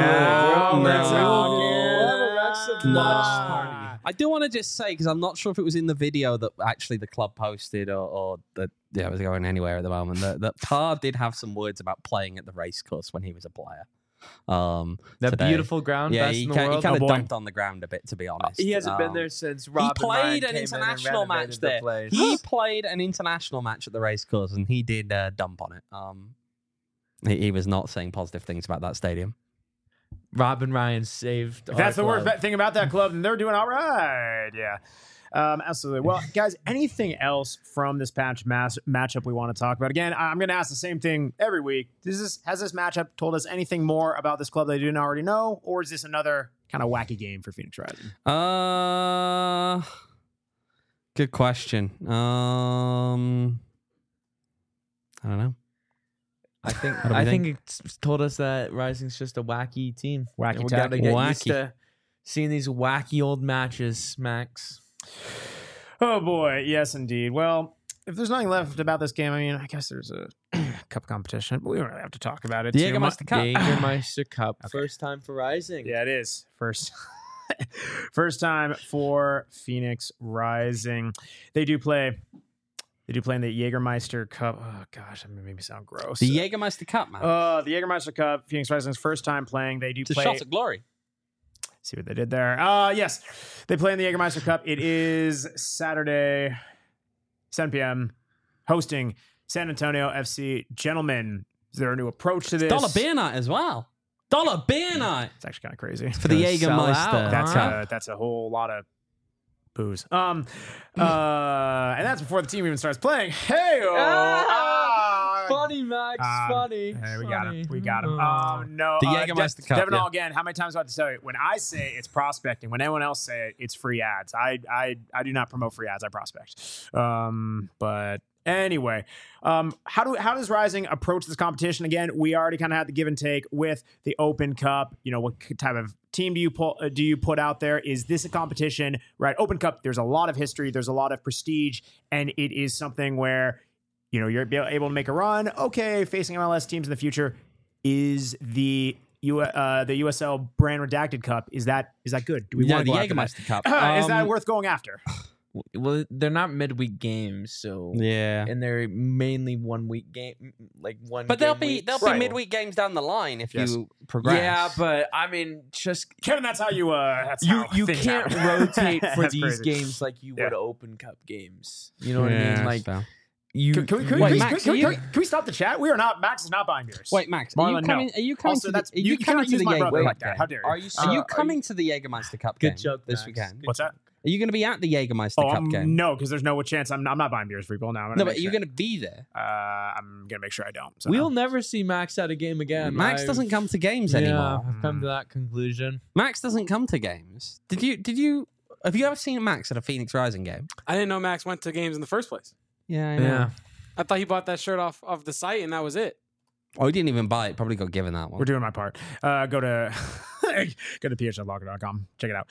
[SPEAKER 1] Now
[SPEAKER 3] No.
[SPEAKER 1] we're
[SPEAKER 3] No.
[SPEAKER 1] talking.
[SPEAKER 2] We'll have a Wrexham
[SPEAKER 3] No.
[SPEAKER 2] lunch party.
[SPEAKER 3] I do want to just say, because I'm not sure if it was in the video that actually the club posted or, or that yeah, it was going anywhere at the moment, that, that Parr did have some words about playing at the racecourse when he was a player. Um,
[SPEAKER 2] That
[SPEAKER 3] today.
[SPEAKER 2] beautiful ground,
[SPEAKER 3] Yeah,
[SPEAKER 2] best
[SPEAKER 3] he,
[SPEAKER 2] in the
[SPEAKER 3] ki- he
[SPEAKER 2] world.
[SPEAKER 3] kind
[SPEAKER 1] Oh,
[SPEAKER 3] of
[SPEAKER 1] boy.
[SPEAKER 3] dumped on the ground a bit, to be honest.
[SPEAKER 2] He hasn't been
[SPEAKER 3] Um,
[SPEAKER 2] there since
[SPEAKER 3] He
[SPEAKER 2] Rob and Ryan
[SPEAKER 3] played an
[SPEAKER 2] came in and
[SPEAKER 3] international match
[SPEAKER 2] renovated the
[SPEAKER 3] there.
[SPEAKER 2] place.
[SPEAKER 3] He played an international match at the racecourse, and he did uh, dump on it. Um, he, he was not saying positive things about that stadium.
[SPEAKER 2] Rob and Ryan saved.
[SPEAKER 1] If that's
[SPEAKER 2] our
[SPEAKER 1] the worst
[SPEAKER 2] club.
[SPEAKER 1] thing about that club, then they're doing all right. Yeah. Um, absolutely. Well, guys, anything else from this patch mass matchup we want to talk about? Again, I'm going to ask the same thing every week. Does this, has this matchup told us anything more about this club that you didn't already know, or is this another kind of wacky game for Phoenix Rising?
[SPEAKER 3] Uh, good question. Um, I don't know.
[SPEAKER 2] I think
[SPEAKER 3] What do we
[SPEAKER 2] I
[SPEAKER 3] think?
[SPEAKER 2] think it's told us that Rising's just a wacky team.
[SPEAKER 1] Wacky
[SPEAKER 2] And we gotta
[SPEAKER 1] tacky.
[SPEAKER 2] get
[SPEAKER 3] Wacky.
[SPEAKER 2] used to seeing these wacky old matches, Max.
[SPEAKER 1] Oh boy, yes indeed. Well, if there's nothing left about this game, I mean, I guess there's a cup competition, but we don't really have to talk about it.
[SPEAKER 3] The
[SPEAKER 1] too much.
[SPEAKER 3] Jägermeister Cup.
[SPEAKER 2] Jägermeister Cup,
[SPEAKER 1] Okay.
[SPEAKER 2] first time for Rising.
[SPEAKER 1] Yeah, it is first. First time for Phoenix Rising. They do play. They do play in the Jägermeister Cup. Oh gosh, that made me sound gross.
[SPEAKER 3] The Jägermeister Cup, man.
[SPEAKER 1] Uh, the Jägermeister Cup. Phoenix Rising's first time playing. They do
[SPEAKER 3] it's a
[SPEAKER 1] play.
[SPEAKER 3] shot at glory.
[SPEAKER 1] See what they did there. Uh, yes, they play in the Jägermeister Cup. It is Saturday, seven p.m. hosting San Antonio F C. Gentlemen, Is there a new approach to this?
[SPEAKER 3] Dollar beer night as well. Dollar beer night
[SPEAKER 1] It's actually kind of crazy.
[SPEAKER 3] for the
[SPEAKER 2] Gonna sell out,
[SPEAKER 3] Jägermeister.
[SPEAKER 1] That's
[SPEAKER 2] huh?
[SPEAKER 1] a, that's a whole lot of booze. Um, uh, and that's before the team even starts playing. Hey,
[SPEAKER 2] Ah, funny, Max.
[SPEAKER 1] Um,
[SPEAKER 2] funny.
[SPEAKER 1] Hey, we got him.
[SPEAKER 2] funny.
[SPEAKER 1] We got him.
[SPEAKER 2] Oh.
[SPEAKER 1] Um, no,
[SPEAKER 3] The
[SPEAKER 1] uh,
[SPEAKER 3] Jägermeister
[SPEAKER 1] De-
[SPEAKER 3] Cup,
[SPEAKER 1] Devin
[SPEAKER 3] yeah.
[SPEAKER 1] Hall again. How many times do I have to tell you? When I say it's prospecting, when anyone else say it, it's free ads. I I I do not promote free ads. I prospect. Um, but anyway, um, how do how does Rising approach this competition? Again, we already kind of had the give and take with the Open Cup. You know, what type of team do you pull? Uh, do you put out there? Is this a competition? Right, Open Cup. There's a lot of history. There's a lot of prestige, and it is something where, you know, you're able to make a run. Okay, facing M L S teams in the future. Is the U uh, the U S L Brand Redacted Cup, is that is that good? Do we
[SPEAKER 3] Yeah,
[SPEAKER 1] want
[SPEAKER 3] the
[SPEAKER 1] to go after
[SPEAKER 3] Jägermeister Cup.
[SPEAKER 1] that? Is that
[SPEAKER 2] Um,
[SPEAKER 1] worth going after?
[SPEAKER 2] Well, they're not midweek games, so
[SPEAKER 3] Yeah.
[SPEAKER 2] and they're mainly one week game, like one.
[SPEAKER 3] But there'll
[SPEAKER 2] game
[SPEAKER 3] be
[SPEAKER 2] weeks.
[SPEAKER 3] there'll
[SPEAKER 1] Right.
[SPEAKER 3] be midweek games down the line if
[SPEAKER 1] Yes.
[SPEAKER 3] you progress.
[SPEAKER 2] Yeah, but I mean, just
[SPEAKER 1] Kevin, that's how you uh that's
[SPEAKER 2] you
[SPEAKER 1] how
[SPEAKER 2] you
[SPEAKER 1] things
[SPEAKER 2] can't
[SPEAKER 1] happen.
[SPEAKER 2] rotate for
[SPEAKER 1] That's
[SPEAKER 2] these
[SPEAKER 1] crazy.
[SPEAKER 2] games like you
[SPEAKER 1] Yeah.
[SPEAKER 2] would Open Cup games. You know what I
[SPEAKER 3] Yeah,
[SPEAKER 2] mean? Like
[SPEAKER 3] so.
[SPEAKER 2] you.
[SPEAKER 1] Can, can we, can,
[SPEAKER 3] Wait,
[SPEAKER 1] we,
[SPEAKER 3] Max,
[SPEAKER 1] can, we,
[SPEAKER 3] are
[SPEAKER 1] can, we,
[SPEAKER 3] you-
[SPEAKER 1] can we stop the chat? We are not. Max is not buying beers.
[SPEAKER 3] Wait, Max, are you
[SPEAKER 1] Marlon, no.
[SPEAKER 3] coming? Are you coming
[SPEAKER 1] Also,
[SPEAKER 3] to
[SPEAKER 1] that's
[SPEAKER 3] the? Are
[SPEAKER 1] you,
[SPEAKER 3] you,
[SPEAKER 1] you
[SPEAKER 3] coming
[SPEAKER 1] cannot
[SPEAKER 3] to
[SPEAKER 1] use
[SPEAKER 3] the
[SPEAKER 1] my brother
[SPEAKER 3] Jäger-
[SPEAKER 1] like that. How dare you?
[SPEAKER 2] Are you?
[SPEAKER 3] Are you
[SPEAKER 2] uh,
[SPEAKER 3] coming to the Jägermeister Cup
[SPEAKER 2] Good
[SPEAKER 3] game
[SPEAKER 2] joke
[SPEAKER 3] this
[SPEAKER 2] Max.
[SPEAKER 3] weekend?
[SPEAKER 2] Good
[SPEAKER 1] What's
[SPEAKER 2] joke.
[SPEAKER 1] that?
[SPEAKER 3] Are you going to be at the Jägermeister
[SPEAKER 1] Oh,
[SPEAKER 3] Cup
[SPEAKER 1] um,
[SPEAKER 3] game?
[SPEAKER 1] no, because there's no chance. I'm, I'm not buying beers for people now. I'm gonna
[SPEAKER 3] No,
[SPEAKER 1] make
[SPEAKER 3] but are you
[SPEAKER 1] sure-
[SPEAKER 3] going to be there?
[SPEAKER 1] Uh, I'm gonna make sure I don't. So
[SPEAKER 2] We'll
[SPEAKER 1] no.
[SPEAKER 2] never see Max at a game again.
[SPEAKER 3] Max
[SPEAKER 2] I've-
[SPEAKER 3] doesn't come to games
[SPEAKER 2] yeah,
[SPEAKER 3] anymore.
[SPEAKER 2] I've come to that conclusion.
[SPEAKER 3] Max doesn't come to games. Did you? Did you? Have you ever seen Max at a Phoenix Rising game?
[SPEAKER 4] I didn't know Max went to games in the first place.
[SPEAKER 3] Yeah, I know.
[SPEAKER 2] Yeah.
[SPEAKER 4] I thought he bought that shirt off of the site and that was it.
[SPEAKER 3] Oh, he didn't even buy it. Probably got given that one.
[SPEAKER 1] We're doing my part. Uh, go to go to p h l locker dot com. Check it out.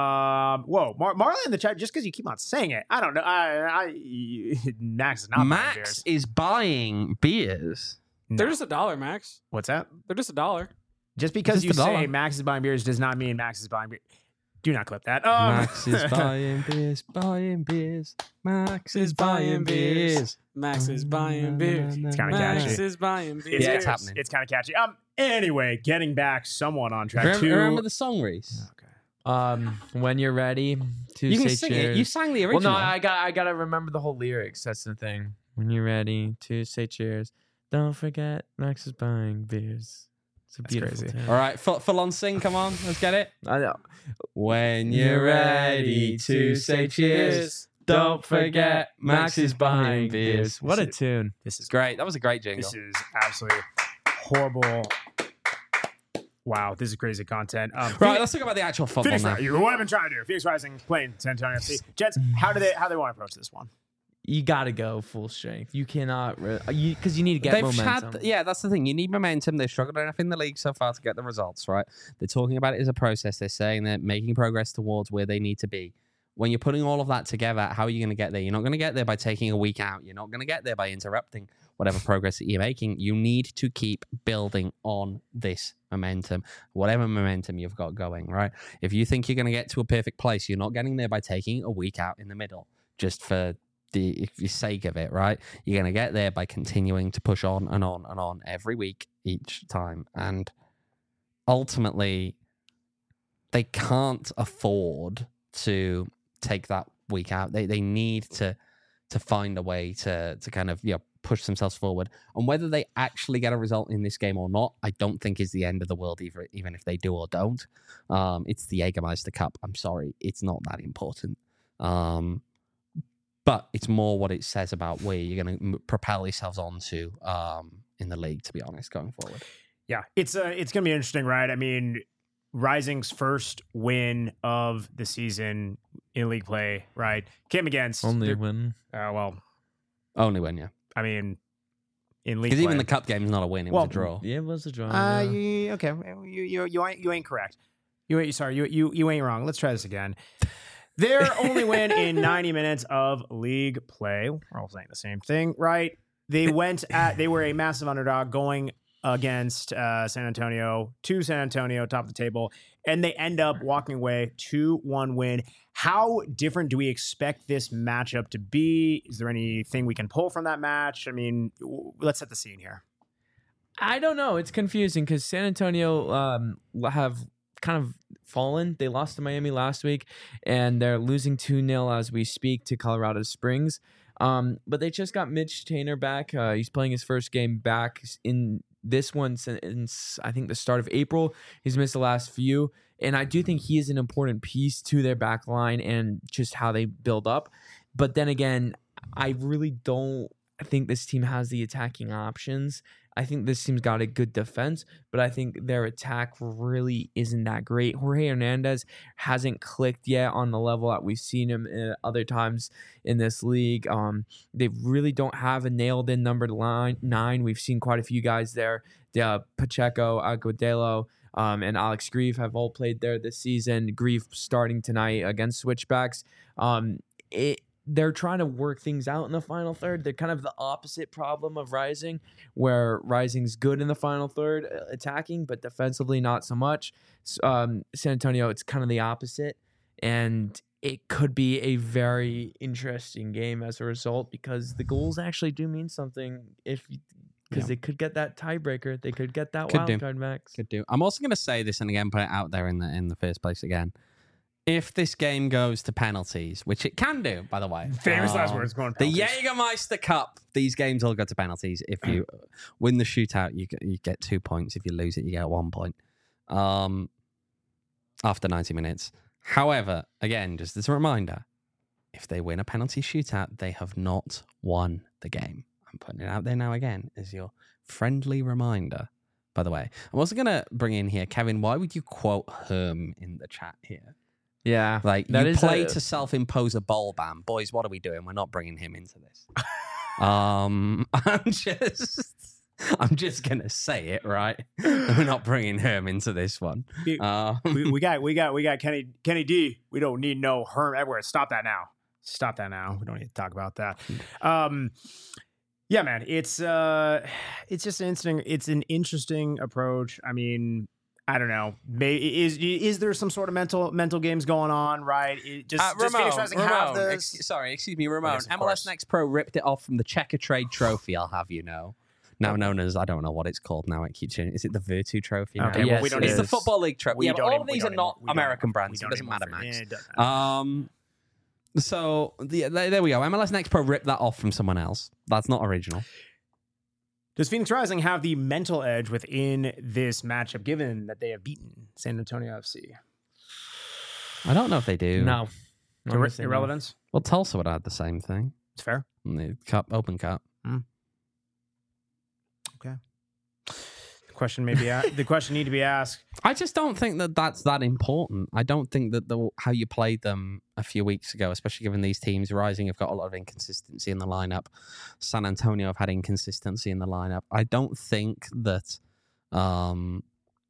[SPEAKER 1] Um, whoa, Mar- Marlon in the chat. Just because you keep on saying it, I don't know. I, I Max is not buying
[SPEAKER 3] Max
[SPEAKER 1] beers.
[SPEAKER 3] is buying beers.
[SPEAKER 1] No.
[SPEAKER 4] They're just a dollar, Max.
[SPEAKER 1] What's that?
[SPEAKER 4] They're just a dollar.
[SPEAKER 1] Just because
[SPEAKER 3] Just
[SPEAKER 1] you
[SPEAKER 3] a dollar.
[SPEAKER 1] say Max is buying beers does not mean Max is buying beer. Do not clip that. Um,
[SPEAKER 3] Max is buying beers, buying beers. Max is buying beers.
[SPEAKER 4] Max is buying beers.
[SPEAKER 1] It's kind of
[SPEAKER 4] Max
[SPEAKER 1] catchy.
[SPEAKER 4] is buying
[SPEAKER 1] It's,
[SPEAKER 4] beers.
[SPEAKER 3] Yeah,
[SPEAKER 1] it's
[SPEAKER 3] it's happening.
[SPEAKER 1] It's kind of catchy. Um. Anyway, getting back somewhat on track.
[SPEAKER 3] Remember,
[SPEAKER 1] to
[SPEAKER 3] remember the song, Reese?
[SPEAKER 1] Okay.
[SPEAKER 2] Um, when you're ready to
[SPEAKER 3] You can
[SPEAKER 2] say
[SPEAKER 3] sing
[SPEAKER 2] cheers.
[SPEAKER 3] it. You sang the
[SPEAKER 2] Well,
[SPEAKER 3] original.
[SPEAKER 2] no, I got I gotta remember the whole lyrics. That's the thing. When you're ready to say cheers, don't forget Max is buying beers. It's a
[SPEAKER 1] That's
[SPEAKER 2] beautiful
[SPEAKER 1] crazy.
[SPEAKER 2] tale.
[SPEAKER 3] All right, full, full on sing. Come on, let's get it.
[SPEAKER 2] I know.
[SPEAKER 3] When you're ready to say cheers, don't forget Max is buying beers.
[SPEAKER 2] What a tune!
[SPEAKER 1] This is
[SPEAKER 3] Great. That was a great jingle.
[SPEAKER 1] This is absolutely horrible. Wow, this is crazy content. Um,
[SPEAKER 3] Right, let's talk about the actual football
[SPEAKER 1] Phoenix
[SPEAKER 3] now.
[SPEAKER 1] Rising. What I've been trying to do. Phoenix Rising playing San Antonio F C. Jets, how do they how do they want to approach this one?
[SPEAKER 2] You gotta go full strength. You cannot, re- you because you need to get
[SPEAKER 3] They've
[SPEAKER 2] momentum.
[SPEAKER 3] had, yeah, that's the thing. You need momentum. They've struggled enough in the league so far to get the results, right? They're talking about it as a process. They're saying they're making progress towards where they need to be. When you're putting all of that together, how are you going to get there? You're not going to get there by taking a week out. You're not going to get there by interrupting whatever progress that you're making. You need to keep building on this momentum, whatever momentum you've got going, right? If you think you're going to get to a perfect place, you're not getting there by taking a week out in the middle just for the for the sake of it, right? You're going to get there by continuing to push on and on and on every week, each time. And ultimately, they can't afford to take that week out. They they need to to find a way to to kind of, you know, push themselves forward. And whether they actually get a result in this game or not, I don't think is the end of the world, either, even if they do or don't. Um, it's the Jägermeister Cup. I'm sorry, it's not that important. Um, but it's more what it says about where you're going to m- propel yourselves onto um, in the league, to be honest, going forward.
[SPEAKER 1] Yeah, it's uh, it's gonna be interesting, right? I mean, Rising's first win of the season in league play, right? Came against
[SPEAKER 2] Only
[SPEAKER 1] the-
[SPEAKER 2] win.
[SPEAKER 1] Uh, well,
[SPEAKER 3] Only win, yeah.
[SPEAKER 1] I mean, in league
[SPEAKER 3] Because
[SPEAKER 1] play.
[SPEAKER 3] even the cup game is not a win; it
[SPEAKER 1] Well,
[SPEAKER 3] was a draw.
[SPEAKER 2] Yeah, it was a draw.
[SPEAKER 1] Uh,
[SPEAKER 2] yeah.
[SPEAKER 1] you, okay, you you you ain't you ain't correct. You ain't sorry. You you you ain't wrong. Let's try this again. Their only win in ninety minutes of league play. We're all saying the same thing, right? They went at. They were a massive underdog going against uh, San Antonio to San Antonio, top of the table, and they end up walking away two one win. How different do we expect this matchup to be? Is there anything we can pull from that match? I mean, w- let's set the scene here.
[SPEAKER 2] I don't know. It's confusing because San Antonio um, have kind of fallen. They lost to Miami last week, and they're losing two nil as we speak to Colorado Springs. Um, but they just got Mitch Tainer back. Uh, he's playing his first game back in this one since I think the start of April. He's missed the last few. And I do think he is an important piece to their back line and just how they build up. But then again, I really don't think this team has the attacking options. I think this team's got a good defense, but I think their attack really isn't that great. Jorge Hernandez hasn't clicked yet on the level that we've seen him at other times in this league. Um, they really don't have a nailed-in number line, nine. We've seen quite a few guys there. Uh, Pacheco, Agudelo, um, and Alex Grieve have all played there this season. Grieve starting tonight against Switchbacks. Um, it They're trying to work things out in the final third. They're kind of the opposite problem of Rising, where Rising's good in the final third, uh, attacking, but defensively not so much. Um, San Antonio, it's kind of the opposite, and it could be a very interesting game as a result because the goals actually do mean something. If because
[SPEAKER 3] Yeah.
[SPEAKER 2] they could get that tiebreaker, they could get that
[SPEAKER 3] Could
[SPEAKER 2] wild
[SPEAKER 3] do.
[SPEAKER 2] card, Max.
[SPEAKER 3] Could do. I'm also going to say this and again put it out there in the in the first place again. If this game goes to penalties, which it can do, by the way.
[SPEAKER 1] Famous last
[SPEAKER 3] um,
[SPEAKER 1] words going
[SPEAKER 3] The
[SPEAKER 1] penalties.
[SPEAKER 3] Jägermeister Cup. These games all go to penalties. If you win the shootout, you get, you get two points. If you lose it, you get one point. Um, after ninety minutes. However, again, just as a reminder, if they win a penalty shootout, they have not won the game. I'm putting it out there now again as your friendly reminder. By the way, I'm also going to bring in here, Kevin, why would you quote Herm in the chat here?
[SPEAKER 2] Yeah,
[SPEAKER 3] Like,
[SPEAKER 2] that
[SPEAKER 3] you
[SPEAKER 2] is
[SPEAKER 3] play
[SPEAKER 2] a-
[SPEAKER 3] to self-impose a bowl ban. Boys, what are we doing? We're not bringing him into this. um, I'm just... I'm just going to say it, right? We're not bringing Herm into this one. Uh,
[SPEAKER 1] we, we got we got we got Kenny Kenny D. We don't need no Herm Edwards. Stop that now. Stop that now. We don't need to talk about that. Um, yeah, man. It's uh, it's just an interesting. It's an interesting approach. I mean, I don't know. May, is is there some sort of mental mental games going on? Right? It just
[SPEAKER 3] Uh,
[SPEAKER 1] just
[SPEAKER 3] Ramon,
[SPEAKER 1] Phoenix Rising have
[SPEAKER 3] Ramon,
[SPEAKER 1] this.
[SPEAKER 3] ex- sorry, excuse me, Ramon.
[SPEAKER 1] Yes, of
[SPEAKER 3] M L S
[SPEAKER 1] course.
[SPEAKER 3] Next Pro ripped it off from the Checker Trade Trophy, I'll have you know. Now known as, I don't know what it's called now. It keeps changing. Is it the Virtu Trophy now?
[SPEAKER 1] Okay, well,
[SPEAKER 2] Yes,
[SPEAKER 1] we don't
[SPEAKER 2] it
[SPEAKER 3] It's
[SPEAKER 1] need
[SPEAKER 3] the
[SPEAKER 2] is.
[SPEAKER 3] Football League Trophy.
[SPEAKER 1] We
[SPEAKER 3] Yeah, but
[SPEAKER 1] don't
[SPEAKER 3] all
[SPEAKER 1] even-
[SPEAKER 3] of
[SPEAKER 1] we
[SPEAKER 3] these
[SPEAKER 1] don't
[SPEAKER 3] are not
[SPEAKER 1] even- we don't
[SPEAKER 3] American
[SPEAKER 1] even-
[SPEAKER 3] brands.
[SPEAKER 1] we
[SPEAKER 3] So it
[SPEAKER 1] don't
[SPEAKER 3] doesn't
[SPEAKER 1] even
[SPEAKER 3] matter,
[SPEAKER 1] for-
[SPEAKER 3] Max.
[SPEAKER 1] yeah, it doesn't matter.
[SPEAKER 3] Um, so the, there there we go. M L S Next Pro ripped that off from someone else. That's not original.
[SPEAKER 1] Does Phoenix Rising have the mental edge within this matchup, given that they have beaten San Antonio F C?
[SPEAKER 3] I don't know if they do.
[SPEAKER 2] no. I'm gonna
[SPEAKER 1] Irre-
[SPEAKER 2] say no.
[SPEAKER 1] irrelevance.
[SPEAKER 3] Well, Tulsa would have had the same thing.
[SPEAKER 1] It's fair.
[SPEAKER 3] In the cup, Open Cup.
[SPEAKER 1] The question may be a- the question need to be asked.
[SPEAKER 3] I just don't think that that's that important. I don't think that the how you played them a few weeks ago, especially given these teams, Rising have got a lot of inconsistency in the lineup. San Antonio have had inconsistency in the lineup. I don't think that um,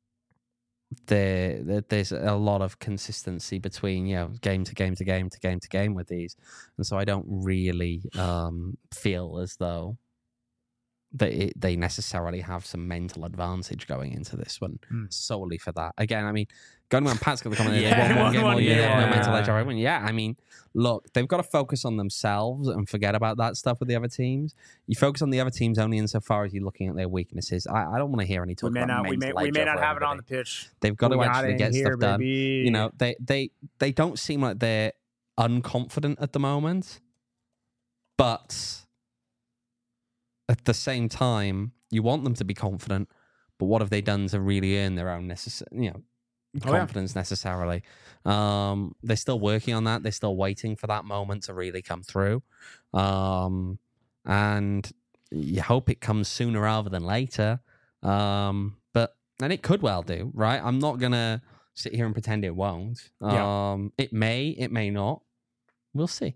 [SPEAKER 3] there that there's a lot of consistency between you know game to game to game to game to game with these, and so I don't really um, feel as though that it, they necessarily have some mental advantage going into this one
[SPEAKER 1] Hmm.
[SPEAKER 3] solely for that. Again, I mean, going on Pat's got the comment.
[SPEAKER 1] Yeah,
[SPEAKER 3] They won one
[SPEAKER 1] one-
[SPEAKER 3] game all
[SPEAKER 1] one
[SPEAKER 3] year. They have no
[SPEAKER 2] game.
[SPEAKER 3] mental edge. Everyone. Yeah, I mean, look, they've got to focus on themselves and forget about that stuff with the other teams. You focus on the other teams only insofar as you're looking at their weaknesses. I, I don't want to hear any
[SPEAKER 1] We
[SPEAKER 3] talk
[SPEAKER 1] may
[SPEAKER 3] about
[SPEAKER 1] not. We may.
[SPEAKER 3] mental
[SPEAKER 1] We
[SPEAKER 3] edge
[SPEAKER 1] may not
[SPEAKER 3] over
[SPEAKER 1] have it on the
[SPEAKER 3] everybody.
[SPEAKER 1] pitch.
[SPEAKER 3] They've got
[SPEAKER 1] We
[SPEAKER 3] to
[SPEAKER 1] got
[SPEAKER 3] actually
[SPEAKER 1] it
[SPEAKER 3] get
[SPEAKER 1] here,
[SPEAKER 3] stuff done.
[SPEAKER 1] baby.
[SPEAKER 3] You know, they they they don't seem like they're unconfident at the moment, but at the same time, you want them to be confident. But what have they done to really earn their own necess- you know,
[SPEAKER 1] Oh, yeah.
[SPEAKER 3] confidence necessarily? Um, they're still working on that. They're still waiting for that moment to really come through, um, and you hope it comes sooner rather than later. Um, but and it could well do, right? I'm not gonna sit here and pretend it won't.
[SPEAKER 1] Yeah.
[SPEAKER 3] Um, it may, it may not. We'll see.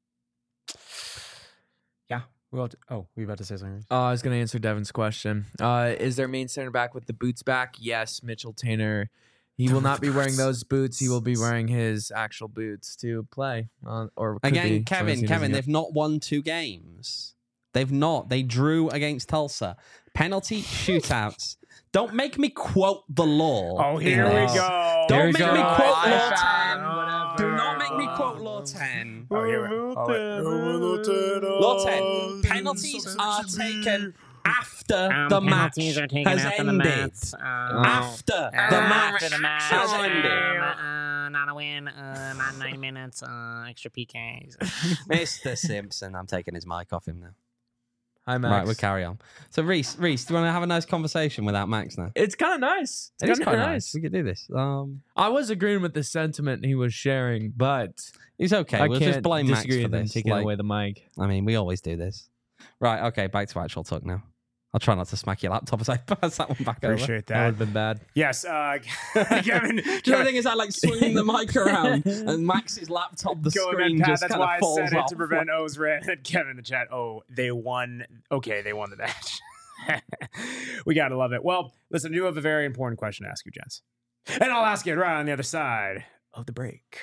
[SPEAKER 1] Yeah. Well. Oh, we about to say something.
[SPEAKER 2] Uh, I was going to answer Devin's question. Uh, is their main center back with the boots back? Yes, Mitchell Tainer. He will not be wearing those boots. He will be wearing his actual boots to play. Uh, or could
[SPEAKER 3] Again,
[SPEAKER 2] be, so
[SPEAKER 3] Kevin,
[SPEAKER 2] he doesn't
[SPEAKER 3] Kevin,
[SPEAKER 2] get-
[SPEAKER 3] they've not won two games. They've not. They drew against Tulsa. Penalty shootouts. Don't make me quote the law.
[SPEAKER 1] Oh,
[SPEAKER 3] in
[SPEAKER 1] here we
[SPEAKER 3] this.
[SPEAKER 1] go.
[SPEAKER 3] Don't
[SPEAKER 2] Here we
[SPEAKER 3] make
[SPEAKER 2] go.
[SPEAKER 3] me quote
[SPEAKER 2] I
[SPEAKER 3] Law
[SPEAKER 2] found
[SPEAKER 3] ten.
[SPEAKER 2] whatever.
[SPEAKER 3] Do not make me quote Law ten.
[SPEAKER 1] Oh, here we go. Oh, wait.
[SPEAKER 3] Law ten. Penalties are taken after
[SPEAKER 6] Um,
[SPEAKER 3] the match
[SPEAKER 6] penalties are taken
[SPEAKER 3] has
[SPEAKER 6] after the
[SPEAKER 3] ended.
[SPEAKER 6] match. Um,
[SPEAKER 3] After
[SPEAKER 6] uh,
[SPEAKER 3] the match
[SPEAKER 6] after the match
[SPEAKER 3] has
[SPEAKER 6] um,
[SPEAKER 3] ended.
[SPEAKER 6] uh, not a win. Uh, not ninety minutes. Uh, extra P Ks.
[SPEAKER 3] Mister Simpson, I'm taking his mic off him now.
[SPEAKER 2] Hi, Max.
[SPEAKER 3] Right, we'll carry on. So, Reese, Reese, do you want to have a nice conversation without Max now?
[SPEAKER 2] It's kind of nice. It's
[SPEAKER 3] It is
[SPEAKER 2] kind
[SPEAKER 3] quite
[SPEAKER 2] of
[SPEAKER 3] nice.
[SPEAKER 2] nice.
[SPEAKER 3] We could do this. Um,
[SPEAKER 2] I was agreeing with the sentiment he was sharing, but
[SPEAKER 3] It's okay.
[SPEAKER 2] I
[SPEAKER 3] we'll
[SPEAKER 2] can't
[SPEAKER 3] just blame Max
[SPEAKER 2] disagree
[SPEAKER 3] for
[SPEAKER 2] with him
[SPEAKER 3] this.
[SPEAKER 2] taking
[SPEAKER 3] Like,
[SPEAKER 2] away the mic.
[SPEAKER 3] I mean, we always do this. Right, okay, back to actual talk now. I'll try not to smack your laptop as I pass that one back over.
[SPEAKER 1] Appreciate
[SPEAKER 2] That would
[SPEAKER 1] that.
[SPEAKER 2] have been bad.
[SPEAKER 1] Yes, uh, Kevin.
[SPEAKER 3] Do you know the thing is, I like swinging the mic around, and Max's laptop, the
[SPEAKER 1] Going
[SPEAKER 3] screen
[SPEAKER 1] Pat,
[SPEAKER 3] just
[SPEAKER 1] that's
[SPEAKER 3] kind
[SPEAKER 1] why
[SPEAKER 3] of falls
[SPEAKER 1] I said
[SPEAKER 3] off.
[SPEAKER 1] it to prevent O's rant. And Kevin in the chat. Oh, they won. Okay, they won the match. We gotta love it. Well, listen, I do have a very important question to ask you, gents, and I'll ask it right on the other side of the break.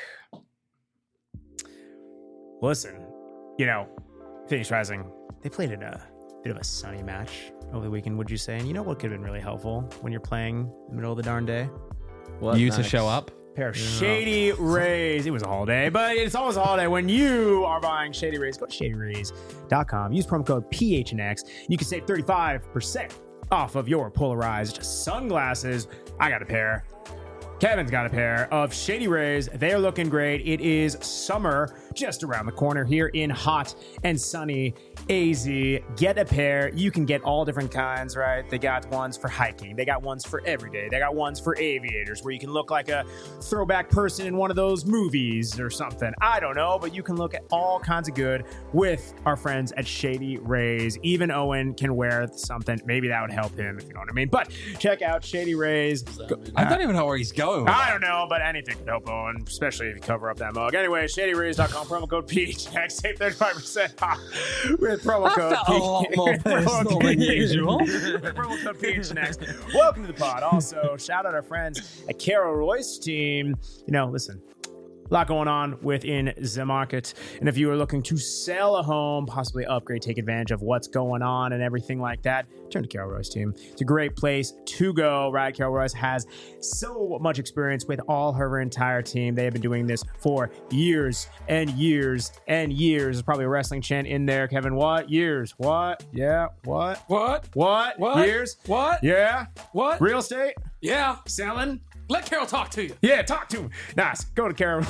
[SPEAKER 1] Listen, you know, Phoenix Rising, they played in a bit of a sunny match over the weekend, would you say? And you know what could have been really helpful when you're playing in the middle of the darn day?
[SPEAKER 2] What,
[SPEAKER 3] You to
[SPEAKER 2] Max?
[SPEAKER 3] show up.
[SPEAKER 1] Pair of Shady Rays. It was a holiday, but it's always a holiday when you are buying Shady Rays. Go to shady rays dot com. Use promo code P H N X. You can save thirty-five percent off of your polarized sunglasses. I got a pair. Kevin's got a pair of Shady Rays. They're looking great. It is summer just around the corner here in hot and sunny A Z. Get a pair. You can get all different kinds, right? They got ones for hiking. They got ones for every day. They got ones for aviators where you can look like a throwback person in one of those movies or something. I don't know, but you can look at all kinds of good with our friends at Shady Rays. Even Owen can wear something. Maybe that would help him, if you know what I mean. But check out Shady Rays. Go-
[SPEAKER 3] I don't even know where he's going with
[SPEAKER 1] I
[SPEAKER 3] that.
[SPEAKER 1] don't know, but anything could help Owen, especially if you cover up that mug. Anyway, shady rays dot com, promo code P H X, save thirty-five percent off with promo
[SPEAKER 3] That
[SPEAKER 1] code
[SPEAKER 3] felt a lot more
[SPEAKER 1] with promo
[SPEAKER 3] personal
[SPEAKER 1] code-
[SPEAKER 3] than usual.
[SPEAKER 1] with promo code P H X. Welcome to the pod. Also, shout out our friends at Carol Royce team. You know, listen. A lot going on within the market. And if you are looking to sell a home, possibly upgrade, take advantage of what's going on and everything like that, turn to Carol Royce team. It's a great place to go, right? Carol Royce has so much experience with all her entire team. They have been doing this for years and years and years. There's probably a wrestling chant in there. Kevin, what? Years. What? Yeah. What?
[SPEAKER 4] What?
[SPEAKER 1] What?
[SPEAKER 4] What?
[SPEAKER 1] Years?
[SPEAKER 4] What?
[SPEAKER 1] Yeah.
[SPEAKER 4] What?
[SPEAKER 1] Real estate?
[SPEAKER 4] Yeah.
[SPEAKER 1] Selling?
[SPEAKER 4] Let Carol talk to you.
[SPEAKER 1] Yeah, talk to him. Nice. Go to Carol.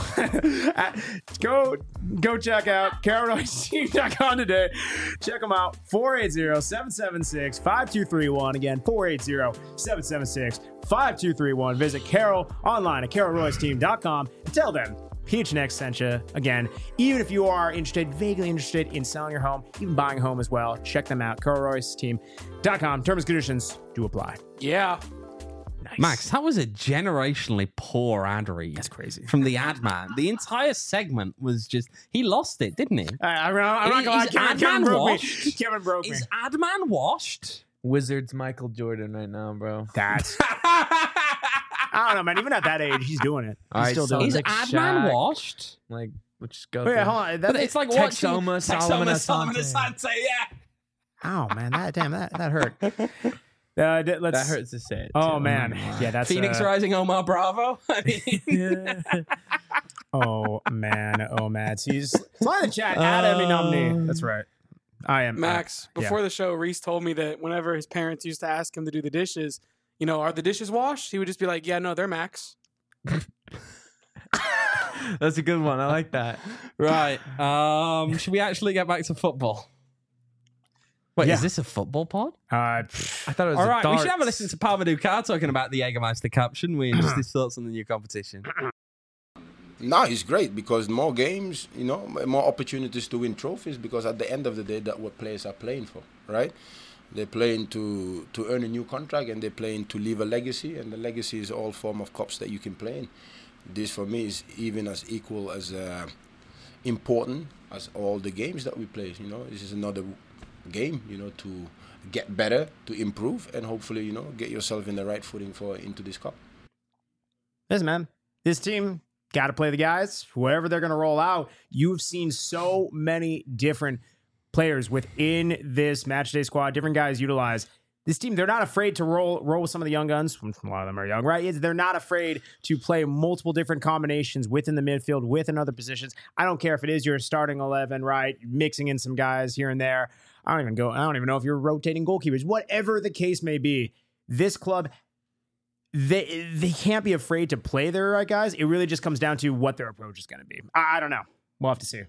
[SPEAKER 1] go go check out carol royce team dot com today. Check them out. four eight zero, seven seven six, five two three one. Again, four eight zero, seven seven six, five two three one. Visit Carol online at carol royce team dot com and tell them P H N X sent you. Again, even if you are interested, vaguely interested in selling your home, even buying a home as well, check them out. carol royce team dot com. Terms and conditions do apply.
[SPEAKER 4] Yeah.
[SPEAKER 1] Nice.
[SPEAKER 3] Max, that was a generationally poor ad read.
[SPEAKER 1] That's crazy.
[SPEAKER 3] From the ad man. The entire segment was just, he lost it, didn't he?
[SPEAKER 1] I, I'm not, I'm not gonna lie.
[SPEAKER 3] Is
[SPEAKER 1] Kevin,
[SPEAKER 3] Adman
[SPEAKER 1] Kevin broke me.
[SPEAKER 3] washed?
[SPEAKER 1] Kevin broke me.
[SPEAKER 3] Is ad man washed?
[SPEAKER 2] Wizards Michael Jordan right now, bro.
[SPEAKER 1] That's I don't know, man. Even at that age, he's doing it. He's
[SPEAKER 2] All right,
[SPEAKER 1] still
[SPEAKER 2] so
[SPEAKER 1] doing
[SPEAKER 3] Is
[SPEAKER 1] it.
[SPEAKER 2] Like
[SPEAKER 3] ad man
[SPEAKER 2] Shaq.
[SPEAKER 3] washed?
[SPEAKER 2] Like, let's go.
[SPEAKER 1] Oh, yeah,
[SPEAKER 2] through-
[SPEAKER 1] hold on.
[SPEAKER 3] But
[SPEAKER 1] That,
[SPEAKER 3] it's like
[SPEAKER 2] Texoma,
[SPEAKER 3] watching
[SPEAKER 2] Solomon
[SPEAKER 3] Texoma,
[SPEAKER 2] Asante.
[SPEAKER 3] Solomon Asante, yeah.
[SPEAKER 1] oh man, that damn that that hurt. Uh, d- let's,
[SPEAKER 2] That hurts to say it.
[SPEAKER 1] Oh
[SPEAKER 2] too.
[SPEAKER 1] man, yeah, that's
[SPEAKER 3] Phoenix
[SPEAKER 1] uh,
[SPEAKER 3] Rising, Omar Bravo. I mean,
[SPEAKER 1] Oh man, oh man. He's fly in the chat. Adam Inomni. That's right. I am
[SPEAKER 4] Max,
[SPEAKER 1] uh, yeah.
[SPEAKER 4] before the show, Reese told me that whenever his parents used to ask him to do the dishes, you know, are the dishes washed? He would just be like, yeah, no, they're Max.
[SPEAKER 2] That's a good one. I like that.
[SPEAKER 3] right. Um, should we actually get back to football? Wait,
[SPEAKER 1] Yeah.
[SPEAKER 3] is this a football pod?
[SPEAKER 1] Uh,
[SPEAKER 2] I thought it was
[SPEAKER 3] All
[SPEAKER 2] a
[SPEAKER 3] right, we should have a
[SPEAKER 2] darts.
[SPEAKER 3] listen to Parvadu Kar talking about the Jägermeister Cup, shouldn't we? And just his thoughts on the new competition.
[SPEAKER 5] No, it's great because more games, you know, more opportunities to win trophies. Because at the end of the day, that's what players are playing for, right? They're playing to to earn a new contract, and they're playing to leave a legacy. And the legacy is all form of cups that you can play in. This for me is even as equal as uh, important as all the games that we play. You know, this is another game. You know, to get better, to improve, and hopefully, you know, get yourself in the right footing for into this cup.
[SPEAKER 1] listen, man. This team got to play the guys. Whoever they're going to roll out. You've seen so many different players within this match day squad. Different guys utilize. This team, they're not afraid to roll roll with some of the young guns. A lot of them are young, right? It's- They're not afraid to play multiple different combinations within the midfield, within other positions. I don't care if it is your starting eleven, right? Mixing in some guys here and there. I don't even go. I don't even know if you're rotating goalkeepers. Whatever the case may be, this club, they they can't be afraid to play their right guys. It really just comes down to what their approach is going to be. I, I don't know. We'll have to see.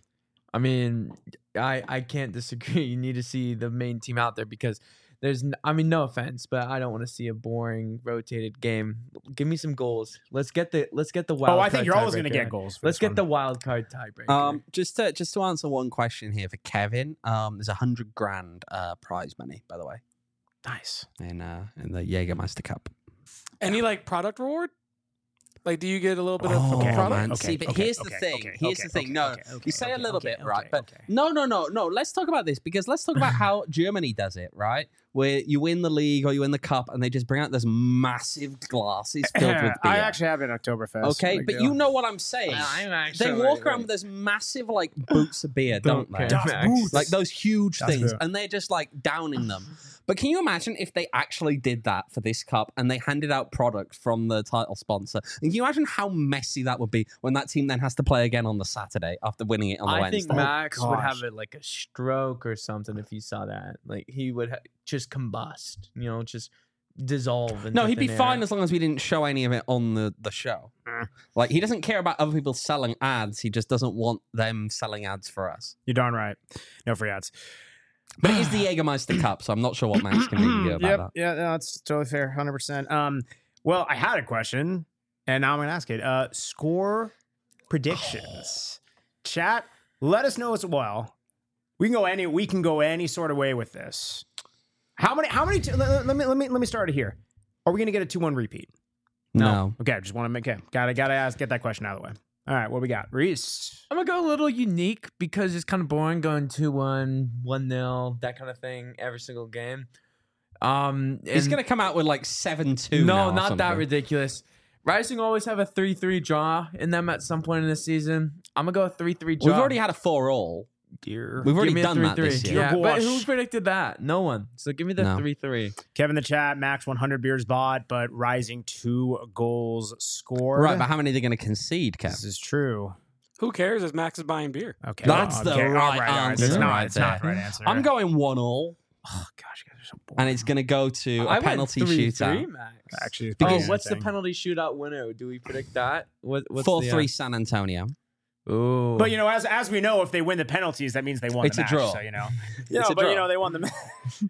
[SPEAKER 2] I mean, I I can't disagree. You need to see the main team out there because there's. n- I mean, no offense, but I don't want to see a boring rotated game. Give me some goals. Let's get the let's get the wild.
[SPEAKER 1] Oh, I think
[SPEAKER 2] card
[SPEAKER 1] you're always going to
[SPEAKER 2] tiebreaker.
[SPEAKER 1] get goals. For
[SPEAKER 2] Let's
[SPEAKER 1] this
[SPEAKER 2] get
[SPEAKER 1] one.
[SPEAKER 2] the wild card tiebreaker.
[SPEAKER 3] Um,
[SPEAKER 7] Just to just to answer one question here for Kevin, um, there's a hundred grand uh, prize money, by the way,
[SPEAKER 1] nice.
[SPEAKER 7] in uh, in the Jägermeister Cup.
[SPEAKER 4] Any like product reward? Like, do you get a little bit of
[SPEAKER 7] Oh,
[SPEAKER 4] a product?
[SPEAKER 7] man.
[SPEAKER 1] Okay,
[SPEAKER 7] See, but
[SPEAKER 1] okay,
[SPEAKER 7] here's the
[SPEAKER 1] okay,
[SPEAKER 7] thing.
[SPEAKER 1] okay,
[SPEAKER 7] Here's
[SPEAKER 1] okay,
[SPEAKER 7] the thing.
[SPEAKER 1] okay,
[SPEAKER 7] No,
[SPEAKER 1] okay, okay,
[SPEAKER 7] you say
[SPEAKER 1] okay,
[SPEAKER 7] a little
[SPEAKER 1] okay,
[SPEAKER 7] bit, right?
[SPEAKER 1] okay,
[SPEAKER 7] But
[SPEAKER 1] okay.
[SPEAKER 7] no, no, no, no. Let's talk about this because let's talk about how Germany does it, right? Where you win the league or you win the cup, and they just bring out those massive glasses filled with beer.
[SPEAKER 1] I actually have it in Oktoberfest.
[SPEAKER 7] Okay,
[SPEAKER 1] Big
[SPEAKER 7] but
[SPEAKER 1] deal.
[SPEAKER 7] you know what I'm saying.
[SPEAKER 2] I'm
[SPEAKER 7] They
[SPEAKER 2] actually
[SPEAKER 7] walk around with those massive like boots of beer, don't they?
[SPEAKER 1] Das Boots.
[SPEAKER 7] Like those huge
[SPEAKER 1] Das
[SPEAKER 7] things,
[SPEAKER 1] Boot.
[SPEAKER 7] and they're just like downing them. But can you imagine if they actually did that for this cup and they handed out product from the title sponsor? And can you imagine how messy that would be when that team then has to play again on the Saturday after winning it on the
[SPEAKER 2] I
[SPEAKER 7] Wednesday?
[SPEAKER 2] think Max would
[SPEAKER 1] gosh.
[SPEAKER 2] have it like a stroke or something if he saw that. Like he would ha- just combust, you know, just dissolve.
[SPEAKER 7] No,
[SPEAKER 2] into
[SPEAKER 7] he'd be
[SPEAKER 2] thin
[SPEAKER 7] fine
[SPEAKER 2] air.
[SPEAKER 7] as long as we didn't show any of it on the, the show. Like, he doesn't care about other people selling ads. He just doesn't want them selling ads for us.
[SPEAKER 1] You're darn right. No free ads.
[SPEAKER 7] But it is the Jägermeister Cup, so I'm not sure what Max can really do about
[SPEAKER 1] yep.
[SPEAKER 7] that.
[SPEAKER 1] Yeah, no, that's totally fair. one hundred percent. Um, well, I had a question, and now I'm going to ask it. Uh, score predictions. Chat, let us know as well. We can go any. We can go any sort of way with this. How many? How many? T- let, let me. Let me. Let me start it here. Are we going to get a two one repeat?
[SPEAKER 7] No.
[SPEAKER 1] Okay, just want to make. Okay, gotta gotta ask. Get that question out of the way. All right, what we got, Reese?
[SPEAKER 2] I'm gonna go a little unique because it's kind of boring going two one, one nil, that kind of thing every single game. Um,
[SPEAKER 7] He's
[SPEAKER 2] and-
[SPEAKER 7] going to come out with like seven two.
[SPEAKER 2] No,
[SPEAKER 7] now or
[SPEAKER 2] not that
[SPEAKER 7] something.
[SPEAKER 2] ridiculous. Rising always have a three three draw in them at some point in the season. I'm gonna go three three draw.
[SPEAKER 7] We've already had a four all.
[SPEAKER 1] Dear.
[SPEAKER 7] We've already
[SPEAKER 2] Give me a
[SPEAKER 7] done that this
[SPEAKER 2] three-three.
[SPEAKER 7] year.
[SPEAKER 2] Yeah,
[SPEAKER 1] Dear
[SPEAKER 2] but
[SPEAKER 1] gosh.
[SPEAKER 2] who predicted that? No one. So give me the
[SPEAKER 7] No.
[SPEAKER 2] three three.
[SPEAKER 1] Kevin in the chat, max one hundred beers bought, but Rising two goals scored.
[SPEAKER 7] Right, but how many are they going to concede, Kev?
[SPEAKER 1] This is true.
[SPEAKER 4] Who cares if Max is buying beer?
[SPEAKER 1] Okay,
[SPEAKER 7] That's
[SPEAKER 1] well,
[SPEAKER 7] the
[SPEAKER 1] okay, all
[SPEAKER 7] right
[SPEAKER 1] all
[SPEAKER 7] answer
[SPEAKER 1] It's not,
[SPEAKER 7] right
[SPEAKER 1] it's not the
[SPEAKER 7] there.
[SPEAKER 1] right answer.
[SPEAKER 7] I'm going one all,
[SPEAKER 1] Oh gosh, you guys are so boring.
[SPEAKER 7] and it's going to go to
[SPEAKER 2] I
[SPEAKER 7] a
[SPEAKER 2] went
[SPEAKER 7] penalty
[SPEAKER 2] three
[SPEAKER 7] shootout.
[SPEAKER 2] three, Max.
[SPEAKER 1] Actually, it's
[SPEAKER 2] Oh,
[SPEAKER 1] pretty
[SPEAKER 2] what's the
[SPEAKER 1] interesting.
[SPEAKER 2] penalty shootout winner? Do we predict that? What, what's
[SPEAKER 7] four
[SPEAKER 2] the, uh,
[SPEAKER 7] three San Antonio.
[SPEAKER 2] Ooh.
[SPEAKER 1] But you know, as as we know, if they win the penalties, that means they won
[SPEAKER 7] It's
[SPEAKER 1] the
[SPEAKER 7] a
[SPEAKER 1] match.
[SPEAKER 7] draw.
[SPEAKER 1] So you know, yeah,
[SPEAKER 7] a
[SPEAKER 1] but you
[SPEAKER 7] draw.
[SPEAKER 1] know they won the match.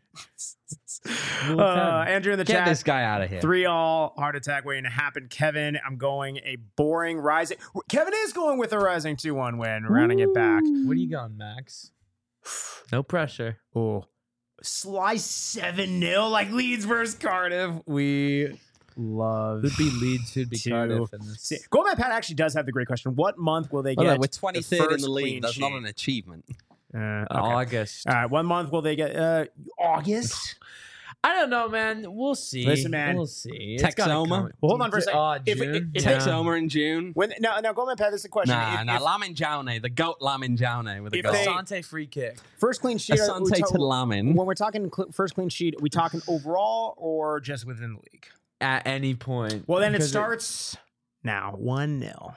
[SPEAKER 2] Rule
[SPEAKER 1] uh,
[SPEAKER 2] ten.
[SPEAKER 1] Andrew in the
[SPEAKER 7] Get
[SPEAKER 1] chat,
[SPEAKER 7] this guy out of here.
[SPEAKER 1] three all heart attack waiting to happen. Kevin, I'm going a boring Rising. Kevin is going with a Rising two one win, rounding it back.
[SPEAKER 2] What are you going, Max? No pressure.
[SPEAKER 1] Oh, slice seven nil like Leeds versus Cardiff. We love.
[SPEAKER 2] Who'd be Leeds? Who'd be
[SPEAKER 1] to
[SPEAKER 2] Cardiff? In this?
[SPEAKER 1] See, Goldman Pat actually does have the great question. What month will they
[SPEAKER 7] Well,
[SPEAKER 1] get?
[SPEAKER 7] no, we're twenty-third in
[SPEAKER 1] first
[SPEAKER 7] the league.
[SPEAKER 1] clean
[SPEAKER 7] That's not
[SPEAKER 1] sheet?
[SPEAKER 7] an achievement.
[SPEAKER 1] Uh, okay.
[SPEAKER 2] August.
[SPEAKER 1] All right, one month will they get? Uh, August.
[SPEAKER 2] I don't know, man. We'll see.
[SPEAKER 1] Listen, man.
[SPEAKER 2] We'll see.
[SPEAKER 7] Tex
[SPEAKER 2] gotta
[SPEAKER 7] Oma?
[SPEAKER 2] come-
[SPEAKER 1] Well, hold on for a second.
[SPEAKER 2] Uh,
[SPEAKER 1] If-
[SPEAKER 2] June?
[SPEAKER 1] if- if-
[SPEAKER 7] Takes
[SPEAKER 2] Yeah.
[SPEAKER 7] Omer in June.
[SPEAKER 1] When now, now Goldman Pat, this is a question.
[SPEAKER 7] Nah,
[SPEAKER 1] If-
[SPEAKER 7] nah,
[SPEAKER 1] if
[SPEAKER 7] Lamin Jaune, the goat Lamin Jaune with the
[SPEAKER 1] If
[SPEAKER 7] goal.
[SPEAKER 1] they-
[SPEAKER 2] Asante free kick.
[SPEAKER 1] first clean sheet. are we
[SPEAKER 7] Asante
[SPEAKER 1] ta-
[SPEAKER 7] to Lamin.
[SPEAKER 1] when we're talking cl- first clean sheet, are we talking overall or just within the league?
[SPEAKER 2] At any point.
[SPEAKER 1] Well, then it
[SPEAKER 2] Because
[SPEAKER 1] starts now one nil.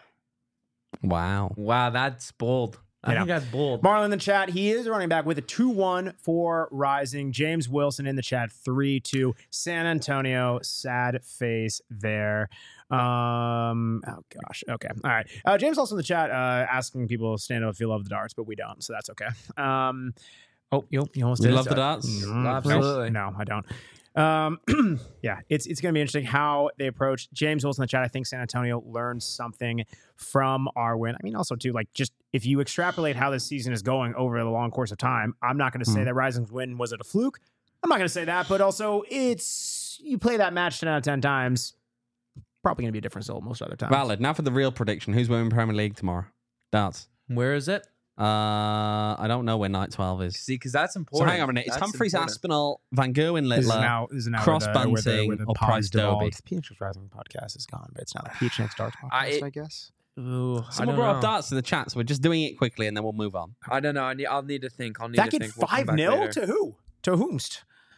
[SPEAKER 7] Wow.
[SPEAKER 2] Wow, that's bold. I
[SPEAKER 1] You
[SPEAKER 2] think
[SPEAKER 1] know.
[SPEAKER 2] that's bold.
[SPEAKER 1] Marlon in the chat, he is running back with a two one for Rising. James Wilson in the chat, three two. San Antonio, sad face there. Um, oh, gosh. Okay. All right. Uh, James also in the chat uh, asking people stand up if you love the darts, but we don't, so that's okay. Um, oh, you, you almost
[SPEAKER 7] You
[SPEAKER 1] did.
[SPEAKER 7] love the darts?
[SPEAKER 1] Mm,
[SPEAKER 2] Absolutely.
[SPEAKER 1] No, I don't. Um, yeah, it's it's going to be interesting how they approach James Wilson in the chat. I think San Antonio learned something from our win. I mean, also too, like just if you extrapolate how this season is going over the long course of time, I'm not going to say
[SPEAKER 7] Hmm.
[SPEAKER 1] that Rising's win was it a fluke. I'm not going to say that, but also it's you play that match ten out of ten times, probably going to be a different result most other times.
[SPEAKER 7] Valid. Now for the real prediction. Who's winning Premier League tomorrow? Darts.
[SPEAKER 2] Where is it?
[SPEAKER 7] Uh, I don't know where night twelve is.
[SPEAKER 2] See, because that's
[SPEAKER 7] So
[SPEAKER 2] important.
[SPEAKER 7] hang on a minute. It's
[SPEAKER 2] That's
[SPEAKER 7] Humphreys,
[SPEAKER 2] important.
[SPEAKER 7] Aspinall, Van Gerwen,
[SPEAKER 1] This is
[SPEAKER 7] Littler.
[SPEAKER 1] now, this is now
[SPEAKER 7] Cross
[SPEAKER 1] where the, where the,
[SPEAKER 7] Bunting
[SPEAKER 1] where the
[SPEAKER 7] or
[SPEAKER 1] pods
[SPEAKER 7] Price
[SPEAKER 1] devolved.
[SPEAKER 7] Derby.
[SPEAKER 1] The P H X Rising podcast is gone, but it's now the P H X Darts podcast,
[SPEAKER 2] I-
[SPEAKER 1] I, guess.
[SPEAKER 2] Ooh, I
[SPEAKER 7] Someone
[SPEAKER 2] don't
[SPEAKER 7] brought
[SPEAKER 2] know.
[SPEAKER 7] up darts in the chat, so we're just doing it quickly and then we'll move on.
[SPEAKER 2] I don't know. I need, I'll need to think. I'll need
[SPEAKER 1] That
[SPEAKER 2] to
[SPEAKER 1] get
[SPEAKER 2] think. We'll come
[SPEAKER 1] five
[SPEAKER 2] back
[SPEAKER 1] nil
[SPEAKER 2] later.
[SPEAKER 1] to who? To whomst?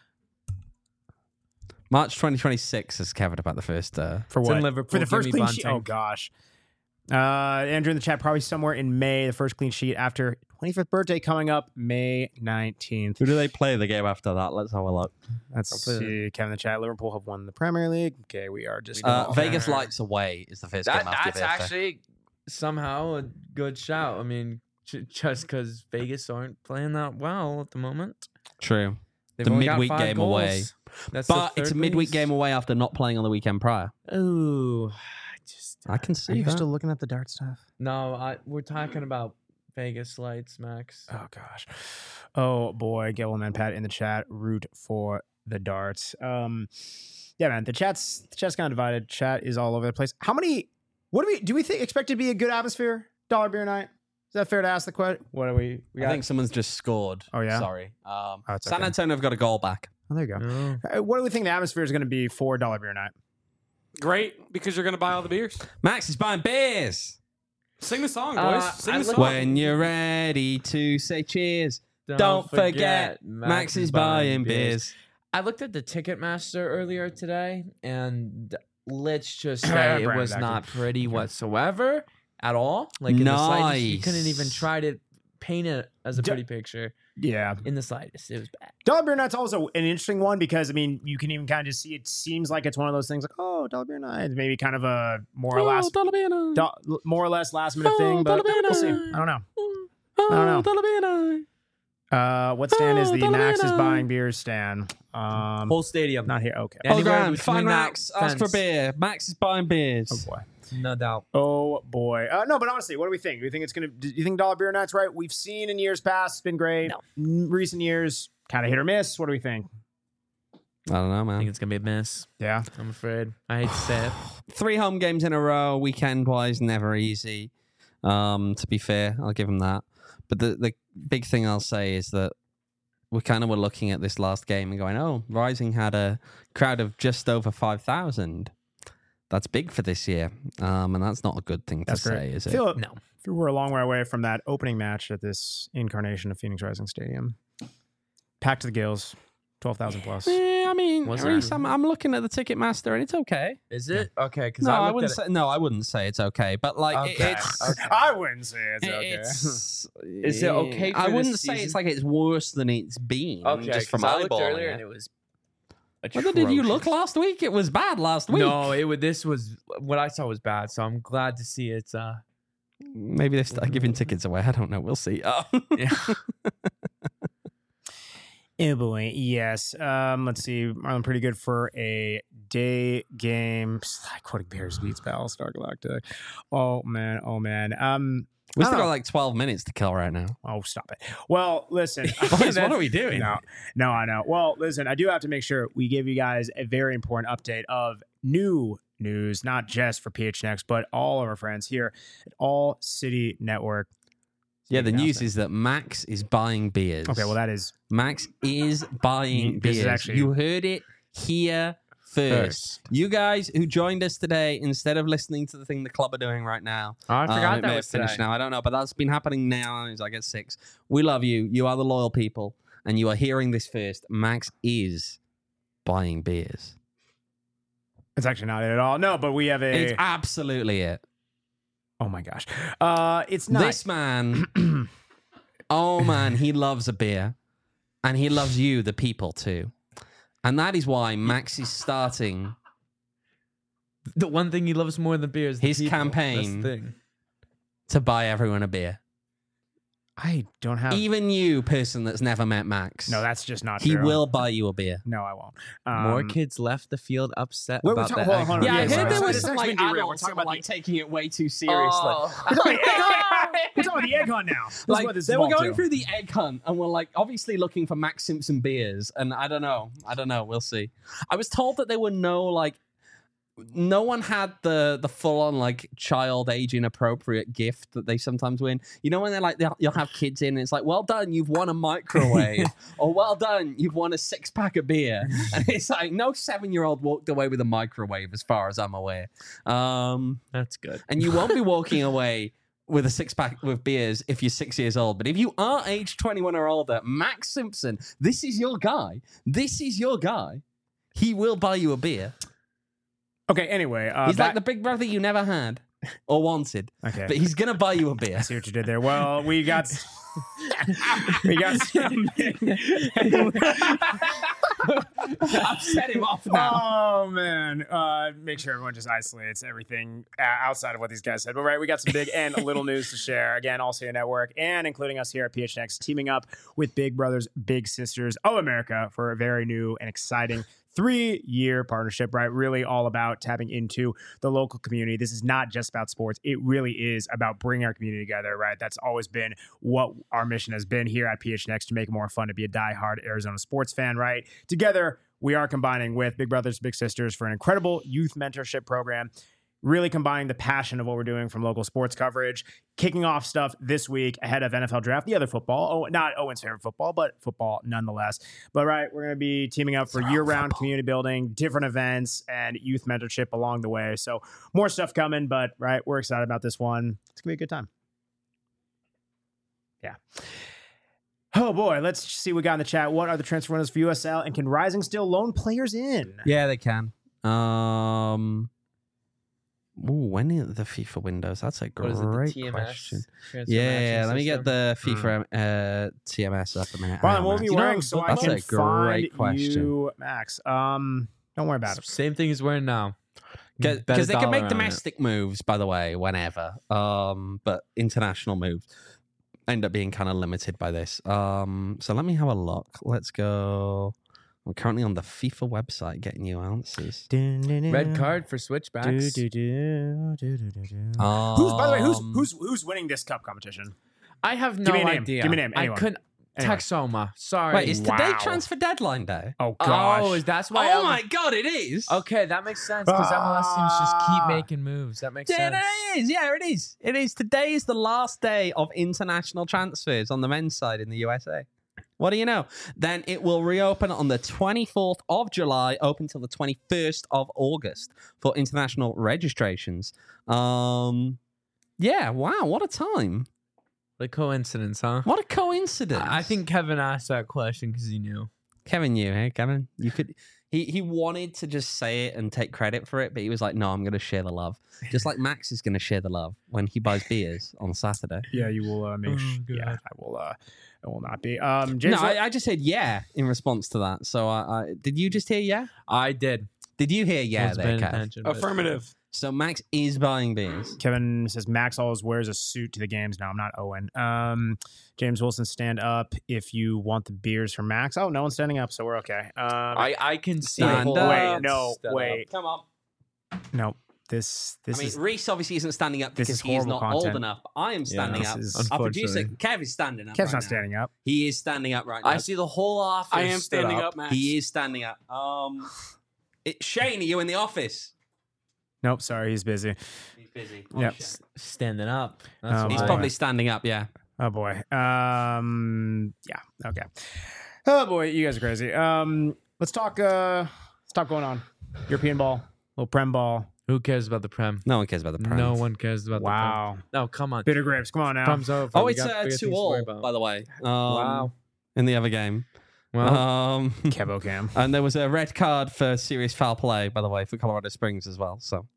[SPEAKER 7] March twenty twenty-six is covered about the first. Uh,
[SPEAKER 1] For
[SPEAKER 2] It's
[SPEAKER 1] what?
[SPEAKER 2] in Liverpool.
[SPEAKER 1] For the
[SPEAKER 2] Give
[SPEAKER 1] first
[SPEAKER 2] me
[SPEAKER 1] clean sheet?
[SPEAKER 2] Bunting.
[SPEAKER 1] Oh, gosh. Uh, Andrew in the chat, probably somewhere in May, the first clean sheet after twenty-fifth birthday coming up, May nineteenth.
[SPEAKER 7] who do they play the game after that? Let's have a look.
[SPEAKER 1] Let's
[SPEAKER 2] I'll put
[SPEAKER 1] see. Kevin in the chat, Liverpool have won the Premier League. Okay, we are just.
[SPEAKER 7] Uh,
[SPEAKER 1] Oh,
[SPEAKER 7] Vegas
[SPEAKER 1] okay.
[SPEAKER 7] Lights away is the first
[SPEAKER 2] That,
[SPEAKER 7] game after
[SPEAKER 2] that's
[SPEAKER 7] your birthday.
[SPEAKER 2] actually somehow a good shout. I mean, J- just because Vegas aren't playing that well at the moment.
[SPEAKER 7] True.
[SPEAKER 2] They've
[SPEAKER 7] The
[SPEAKER 2] only got
[SPEAKER 7] midweek
[SPEAKER 2] five
[SPEAKER 7] game
[SPEAKER 2] goals.
[SPEAKER 7] away.
[SPEAKER 2] That's the
[SPEAKER 7] But it's a
[SPEAKER 2] third
[SPEAKER 7] midweek
[SPEAKER 2] least.
[SPEAKER 7] game away after not playing on the weekend prior.
[SPEAKER 2] Ooh, I just
[SPEAKER 7] I can
[SPEAKER 1] Are
[SPEAKER 7] see
[SPEAKER 1] you
[SPEAKER 7] that.
[SPEAKER 1] still looking at the dart stuff?
[SPEAKER 2] no. I we're talking about Vegas lights, Max.
[SPEAKER 1] Oh gosh. Oh boy, Gilman Pat in the chat. Root for the darts. Um, yeah, man. The chat's the chat's kind of divided. Chat is all over the place. How many? What do we do? We think expect to be a good atmosphere? Dollar beer night. Is that fair to ask the question? What are we? we
[SPEAKER 7] I
[SPEAKER 1] got?
[SPEAKER 7] think someone's just scored.
[SPEAKER 1] Oh, yeah?
[SPEAKER 7] Sorry. Um,
[SPEAKER 1] Oh, it's
[SPEAKER 7] San
[SPEAKER 1] okay.
[SPEAKER 7] Antonio have got a goal back.
[SPEAKER 1] Oh, there you go.
[SPEAKER 2] No.
[SPEAKER 1] Uh, What do we think the atmosphere is going to be for Dollar Beer Night?
[SPEAKER 4] Great, because you're gonna buy all the beers.
[SPEAKER 7] Max is buying beers.
[SPEAKER 4] Sing the song, boys.
[SPEAKER 2] Uh,
[SPEAKER 4] Sing
[SPEAKER 2] I
[SPEAKER 4] the
[SPEAKER 2] look-
[SPEAKER 4] song.
[SPEAKER 7] When you're ready to say cheers, don't, forget, Max is buying beers.
[SPEAKER 2] I looked at the Ticketmaster earlier today, and let's just
[SPEAKER 1] Yeah,
[SPEAKER 2] say it
[SPEAKER 1] Brandon,
[SPEAKER 2] was
[SPEAKER 1] back
[SPEAKER 2] not
[SPEAKER 1] to
[SPEAKER 2] pretty whatsoever at all. Like in the slightest, you couldn't even
[SPEAKER 7] Nice.
[SPEAKER 2] try to paint it as a
[SPEAKER 1] D-
[SPEAKER 2] pretty picture
[SPEAKER 1] Yeah.
[SPEAKER 2] in the slightest. It was bad.
[SPEAKER 1] Dollar Beer Night's also an interesting one because, I mean, you can even kind of just see it seems like it's one of those things like, oh, Dollar Beer Night. Maybe kind of a more or less
[SPEAKER 7] dollar beer night.
[SPEAKER 1] do- more or less last minute
[SPEAKER 7] Oh,
[SPEAKER 1] thing, but
[SPEAKER 7] Dollar Beer
[SPEAKER 1] we'll see.
[SPEAKER 7] Night.
[SPEAKER 1] I don't know.
[SPEAKER 7] Oh,
[SPEAKER 1] I don't know.
[SPEAKER 7] dollar beer night.
[SPEAKER 1] Uh, what stand is
[SPEAKER 7] Oh,
[SPEAKER 1] the
[SPEAKER 7] Dollar Beer
[SPEAKER 1] Max is
[SPEAKER 7] Night.
[SPEAKER 1] buying beers stand? Um,
[SPEAKER 2] Whole stadium,
[SPEAKER 1] not here. Okay.
[SPEAKER 2] Yeah.
[SPEAKER 7] Oh,
[SPEAKER 2] Anywhere
[SPEAKER 7] grand.
[SPEAKER 2] between
[SPEAKER 7] Find
[SPEAKER 2] that
[SPEAKER 7] Max. Ask for
[SPEAKER 2] fence.
[SPEAKER 7] beer. Max is buying beers.
[SPEAKER 1] Oh boy.
[SPEAKER 2] no doubt.
[SPEAKER 1] Oh boy. Uh, no, but honestly, what do we think? Do you think it's gonna? Do you think Dollar Beer Night's right? We've seen in years past, it's been great.
[SPEAKER 2] No.
[SPEAKER 1] N- Recent years, kind of hit or miss. What do we think?
[SPEAKER 7] I don't know,
[SPEAKER 2] I think
[SPEAKER 7] man.
[SPEAKER 2] it's gonna be a miss.
[SPEAKER 1] Yeah.
[SPEAKER 2] I'm afraid. I hate to say it.
[SPEAKER 7] Three home games in a row, weekend wise, never easy. Um, to be fair, I'll give him that. But the the big thing I'll say is that we kind of were looking at this last game and going, "Oh, Rising had a crowd of just over five thousand. That's big for this year, um, and that's not a good thing
[SPEAKER 1] That's
[SPEAKER 7] to
[SPEAKER 1] great.
[SPEAKER 7] say, is
[SPEAKER 1] I
[SPEAKER 7] it?"
[SPEAKER 1] feel
[SPEAKER 2] No.
[SPEAKER 1] feel we're a long way away from that opening match at this incarnation of Phoenix Rising Stadium. Packed to the gills, twelve thousand plus.
[SPEAKER 7] Yeah, I mean,
[SPEAKER 2] Was
[SPEAKER 7] at
[SPEAKER 2] it?
[SPEAKER 7] least I'm, I'm looking at the Ticketmaster and it's okay.
[SPEAKER 2] Is it okay? Because
[SPEAKER 7] No,
[SPEAKER 2] I,
[SPEAKER 7] I,
[SPEAKER 2] looked
[SPEAKER 7] wouldn't
[SPEAKER 2] at
[SPEAKER 7] say. No, I wouldn't say it's okay. But like, it-
[SPEAKER 2] Okay.
[SPEAKER 7] it's.
[SPEAKER 2] Okay.
[SPEAKER 1] I wouldn't say it's okay.
[SPEAKER 7] It's,
[SPEAKER 2] Is it okay for
[SPEAKER 7] I
[SPEAKER 2] this
[SPEAKER 7] wouldn't say
[SPEAKER 2] season?
[SPEAKER 7] it's like it's worse than it's been.
[SPEAKER 2] it. Okay,
[SPEAKER 7] just from
[SPEAKER 2] 'cause I looked
[SPEAKER 7] eyeballing
[SPEAKER 2] earlier
[SPEAKER 7] it.
[SPEAKER 2] and it was.
[SPEAKER 7] Whether did you look
[SPEAKER 2] atrocious.
[SPEAKER 7] last week? It was bad last week.
[SPEAKER 2] No, it was. This was what I saw was bad. So I'm glad to see it's. Uh,
[SPEAKER 7] Maybe they start giving tickets away. I don't know. We'll see. Oh.
[SPEAKER 2] yeah.
[SPEAKER 1] Oh boy, yes. Um, let's see. Marlon pretty good for a day game. Quoting Bears beats Battlestar Galactic. Oh man, oh man. Um,
[SPEAKER 7] We
[SPEAKER 1] I
[SPEAKER 7] still
[SPEAKER 1] don't
[SPEAKER 7] got
[SPEAKER 1] know.
[SPEAKER 7] like twelve minutes to kill right now.
[SPEAKER 1] Oh, stop it. Well, listen.
[SPEAKER 7] Boys, what are we doing?
[SPEAKER 1] No, no, I know. Well, listen, I do have to make sure we give you guys a very important update of new news, not just for P H N X, but all of our friends here at All City Network.
[SPEAKER 7] Yeah, the
[SPEAKER 1] Big
[SPEAKER 7] news
[SPEAKER 1] announcement.
[SPEAKER 7] is that Max is buying beers.
[SPEAKER 1] Okay, well, that is
[SPEAKER 7] Max is buying
[SPEAKER 1] This is
[SPEAKER 7] beers.
[SPEAKER 1] actually-
[SPEAKER 7] You heard it here first.
[SPEAKER 1] first.
[SPEAKER 7] You guys who joined us today, instead of listening to the thing the club are doing right now,
[SPEAKER 2] Oh, I
[SPEAKER 7] um,
[SPEAKER 2] forgot
[SPEAKER 7] it
[SPEAKER 2] that
[SPEAKER 7] may
[SPEAKER 2] was
[SPEAKER 7] have finished
[SPEAKER 2] today.
[SPEAKER 7] now. I don't know, but that's been happening now. It's like at six. We love you. You are the loyal people, and you are hearing this first. Max is buying beers.
[SPEAKER 1] it's actually not it at all. No, but we have a.
[SPEAKER 7] It's absolutely it.
[SPEAKER 1] oh my gosh, uh, it's not.
[SPEAKER 7] This man, oh man, he loves a beer, and he loves you, the people, too. And that is why Max is starting
[SPEAKER 2] The one thing he loves more than beer is the
[SPEAKER 7] His
[SPEAKER 2] people. That's the
[SPEAKER 7] campaign.
[SPEAKER 2] thing.
[SPEAKER 7] to buy everyone a beer.
[SPEAKER 1] I don't have.
[SPEAKER 7] Even you, person that's never met Max.
[SPEAKER 1] no, that's just not
[SPEAKER 7] he
[SPEAKER 1] true.
[SPEAKER 7] will buy you a beer.
[SPEAKER 1] No, I won't.
[SPEAKER 2] More
[SPEAKER 1] Um,
[SPEAKER 2] kids left the field upset
[SPEAKER 1] Wait, we're
[SPEAKER 2] about
[SPEAKER 1] talking-
[SPEAKER 2] that.
[SPEAKER 1] hold on, hold on.
[SPEAKER 7] Yeah, I
[SPEAKER 1] yes,
[SPEAKER 7] heard
[SPEAKER 1] right.
[SPEAKER 7] there
[SPEAKER 1] So
[SPEAKER 7] was
[SPEAKER 1] this
[SPEAKER 7] some
[SPEAKER 1] actually
[SPEAKER 7] like
[SPEAKER 1] derailed. We're
[SPEAKER 7] adults
[SPEAKER 1] talking
[SPEAKER 7] that were
[SPEAKER 1] about
[SPEAKER 7] like
[SPEAKER 1] the-
[SPEAKER 7] taking it way too seriously.
[SPEAKER 2] Oh.
[SPEAKER 1] We're talking about the egg hunt. We're talking about the egg hunt now. This is
[SPEAKER 7] Like
[SPEAKER 1] what this
[SPEAKER 7] they
[SPEAKER 1] is
[SPEAKER 7] were
[SPEAKER 1] all
[SPEAKER 7] going
[SPEAKER 1] to.
[SPEAKER 7] through the egg hunt and were like obviously looking for Max Simpson beers, and I don't know, I don't know, we'll see. I was told that there were no like, no one had the the full on like child age inappropriate gift that they sometimes win. You know when they're like they'll, you'll have kids in and it's like, well done, you've won a microwave, or well done, you've won a six pack of beer, and it's like no seven year old walked away with a microwave as far as I'm aware. Um,
[SPEAKER 2] That's good.
[SPEAKER 7] and you won't be walking away with a six pack with beers if you're six years old. But if you are age twenty-one or older, Max Simpson, this is your guy. This is your guy. He will buy you a beer.
[SPEAKER 1] Okay. Anyway, uh,
[SPEAKER 7] He's
[SPEAKER 1] back-
[SPEAKER 7] like the big brother you never had or wanted,
[SPEAKER 1] okay.
[SPEAKER 7] but he's gonna buy you a beer.
[SPEAKER 1] I see what you did there. Well, we got we got some,
[SPEAKER 7] I've set him off now.
[SPEAKER 1] Oh man! Uh, make sure everyone just isolates everything uh, outside of what these guys said. But right, we got some big and little news to share. Again, also your network and including us here at P H N X, teaming up with Big Brothers Big Sisters of America for a very new and exciting three-year partnership, right? Really all about tapping into the local community. This is not just about sports. It really is about bringing our community together, right? That's always been what our mission has been here at P H N X, to make it more fun to be a diehard Arizona sports fan, right? Together, we are combining with Big Brothers Big Sisters for an incredible youth mentorship program, really combining the passion of what we're doing from local sports coverage, kicking off stuff this week ahead of N F L draft, the other football. Oh, not Owen's favorite football, but football nonetheless. But right, we're going to be teaming up for year-round community building, different events, and youth mentorship along the way. So more stuff coming, but right, we're excited about this one. It's going to be a good time. Yeah. Oh boy, let's see what we got in the chat. What are the transfer windows for U S L, and can Rising still loan players in?
[SPEAKER 7] Yeah, they can. Um, ooh, when are the FIFA windows? That's a
[SPEAKER 2] What is it, the
[SPEAKER 7] great
[SPEAKER 2] T M S?
[SPEAKER 7] question.
[SPEAKER 2] Transfer
[SPEAKER 7] Yeah,
[SPEAKER 2] matching
[SPEAKER 7] let me get
[SPEAKER 2] system?
[SPEAKER 7] the FIFA uh, T M S up a minute.
[SPEAKER 1] Brian,
[SPEAKER 7] Hang
[SPEAKER 1] what
[SPEAKER 7] on,
[SPEAKER 1] will you
[SPEAKER 7] Max.
[SPEAKER 1] be wearing so I
[SPEAKER 7] that's
[SPEAKER 1] can
[SPEAKER 7] a great
[SPEAKER 1] find
[SPEAKER 7] question.
[SPEAKER 1] you, Max? Um, don't worry about it.
[SPEAKER 2] Same thing as wearing now. Bet a
[SPEAKER 7] Because they can
[SPEAKER 2] dollar
[SPEAKER 7] make
[SPEAKER 2] on it.
[SPEAKER 7] domestic moves, by the way, whenever. Um, but international moves end up being kind of limited by this. Um, so let me have a look. Let's go. I'm currently on the FIFA website getting you answers.
[SPEAKER 2] Red card for switchbacks.
[SPEAKER 1] Do, do, do, do, do, do, do.
[SPEAKER 7] Um,
[SPEAKER 1] Who's, by the way, who's who's who's winning this cup competition?
[SPEAKER 2] I have no
[SPEAKER 1] Give me a name.
[SPEAKER 2] idea.
[SPEAKER 1] Give me a name.
[SPEAKER 2] I
[SPEAKER 1] Anyone.
[SPEAKER 2] couldn't.
[SPEAKER 1] Anyone.
[SPEAKER 2] Texoma. Sorry.
[SPEAKER 7] Wait, is today
[SPEAKER 1] Wow.
[SPEAKER 7] transfer deadline day?
[SPEAKER 1] Oh gosh.
[SPEAKER 2] Oh, is that's why?
[SPEAKER 7] Oh
[SPEAKER 2] I-
[SPEAKER 7] my god, it is.
[SPEAKER 2] Okay, that makes sense because M L S teams just
[SPEAKER 1] Ah.
[SPEAKER 2] keep making moves. That makes
[SPEAKER 7] Yeah,
[SPEAKER 2] sense.
[SPEAKER 7] it is. Yeah, it is. It is. Today is the last day of international transfers on the men's side in the U S A. What do you know? Then it will reopen on the twenty-fourth of July, open till the twenty-first of August for international registrations. Um, yeah, wow, what a time.
[SPEAKER 2] Like coincidence, huh?
[SPEAKER 7] What a coincidence.
[SPEAKER 2] I think Kevin asked that question because he knew.
[SPEAKER 7] Kevin knew, hey, Kevin? You could. He, he wanted to just say it and take credit for it, but he was like, no, I'm going to share the love. Just like Max is going to share the love when he buys beers on Saturday.
[SPEAKER 1] Yeah, you will uh, make.
[SPEAKER 2] Oh,
[SPEAKER 1] sh-
[SPEAKER 2] God.
[SPEAKER 1] yeah, I will. Uh, I will not be. Um, James,
[SPEAKER 7] no, I, I just said yeah in response to that. So I, I did you just hear yeah?
[SPEAKER 2] I did.
[SPEAKER 7] Did you hear yeah
[SPEAKER 2] Wasn't
[SPEAKER 7] there,
[SPEAKER 2] paying
[SPEAKER 7] Kev?
[SPEAKER 2] attention, but-
[SPEAKER 4] Affirmative.
[SPEAKER 7] So Max is buying beers.
[SPEAKER 1] Kevin says Max always wears a suit to the games. No, I'm not Owen. Um, James Wilson, stand up if you want the beers from Max. Oh, no one's standing up, so we're okay. Um,
[SPEAKER 2] I, I can see.
[SPEAKER 7] Stand
[SPEAKER 2] full
[SPEAKER 7] up.
[SPEAKER 1] wait,
[SPEAKER 2] hands
[SPEAKER 1] no,
[SPEAKER 2] stood up.
[SPEAKER 1] wait,
[SPEAKER 7] Come on.
[SPEAKER 1] no. This this
[SPEAKER 7] I mean,
[SPEAKER 1] is
[SPEAKER 7] Reese obviously isn't standing up
[SPEAKER 1] this
[SPEAKER 7] because
[SPEAKER 1] is
[SPEAKER 7] he is not
[SPEAKER 1] horrible
[SPEAKER 7] old
[SPEAKER 1] content.
[SPEAKER 7] enough. But I am standing
[SPEAKER 1] this
[SPEAKER 7] up.
[SPEAKER 1] is-
[SPEAKER 7] Our producer
[SPEAKER 2] Unfortunately.
[SPEAKER 7] Kev is standing up.
[SPEAKER 1] Kev's
[SPEAKER 7] right
[SPEAKER 1] not
[SPEAKER 7] now.
[SPEAKER 1] standing up.
[SPEAKER 7] He is standing up right now.
[SPEAKER 2] I see the whole office.
[SPEAKER 4] I am
[SPEAKER 2] stood
[SPEAKER 4] standing
[SPEAKER 2] up.
[SPEAKER 4] up, Max.
[SPEAKER 7] He is standing up. Um, it, Shane, are you in the office?
[SPEAKER 1] Nope, sorry, he's busy.
[SPEAKER 7] He's busy.
[SPEAKER 1] Yep.
[SPEAKER 2] S- Standing up. That's
[SPEAKER 1] Oh,
[SPEAKER 2] what
[SPEAKER 7] He's
[SPEAKER 1] my.
[SPEAKER 2] I-
[SPEAKER 7] probably standing up. Yeah.
[SPEAKER 1] Oh boy. Um. Yeah. Okay. Oh boy, you guys are crazy. Um. Let's talk. Uh. Let's talk going on. European ball, little Prem ball.
[SPEAKER 2] Who cares about the Prem?
[SPEAKER 7] No one cares about the Prem.
[SPEAKER 2] No one cares about
[SPEAKER 1] Wow.
[SPEAKER 2] the Prem. No, come on.
[SPEAKER 1] Bitter grapes. Come on now.
[SPEAKER 2] Prem's over.
[SPEAKER 7] Oh,
[SPEAKER 2] We
[SPEAKER 7] it's
[SPEAKER 2] got
[SPEAKER 7] uh,
[SPEAKER 2] bigger
[SPEAKER 7] two
[SPEAKER 2] things to worry
[SPEAKER 7] all,
[SPEAKER 2] about.
[SPEAKER 7] by the way. Um,
[SPEAKER 2] Wow.
[SPEAKER 7] In the other game.
[SPEAKER 2] Well,
[SPEAKER 7] Um,
[SPEAKER 1] Kebo Cam.
[SPEAKER 7] and there was a red card for serious foul play, by the way, for Colorado Springs as well. So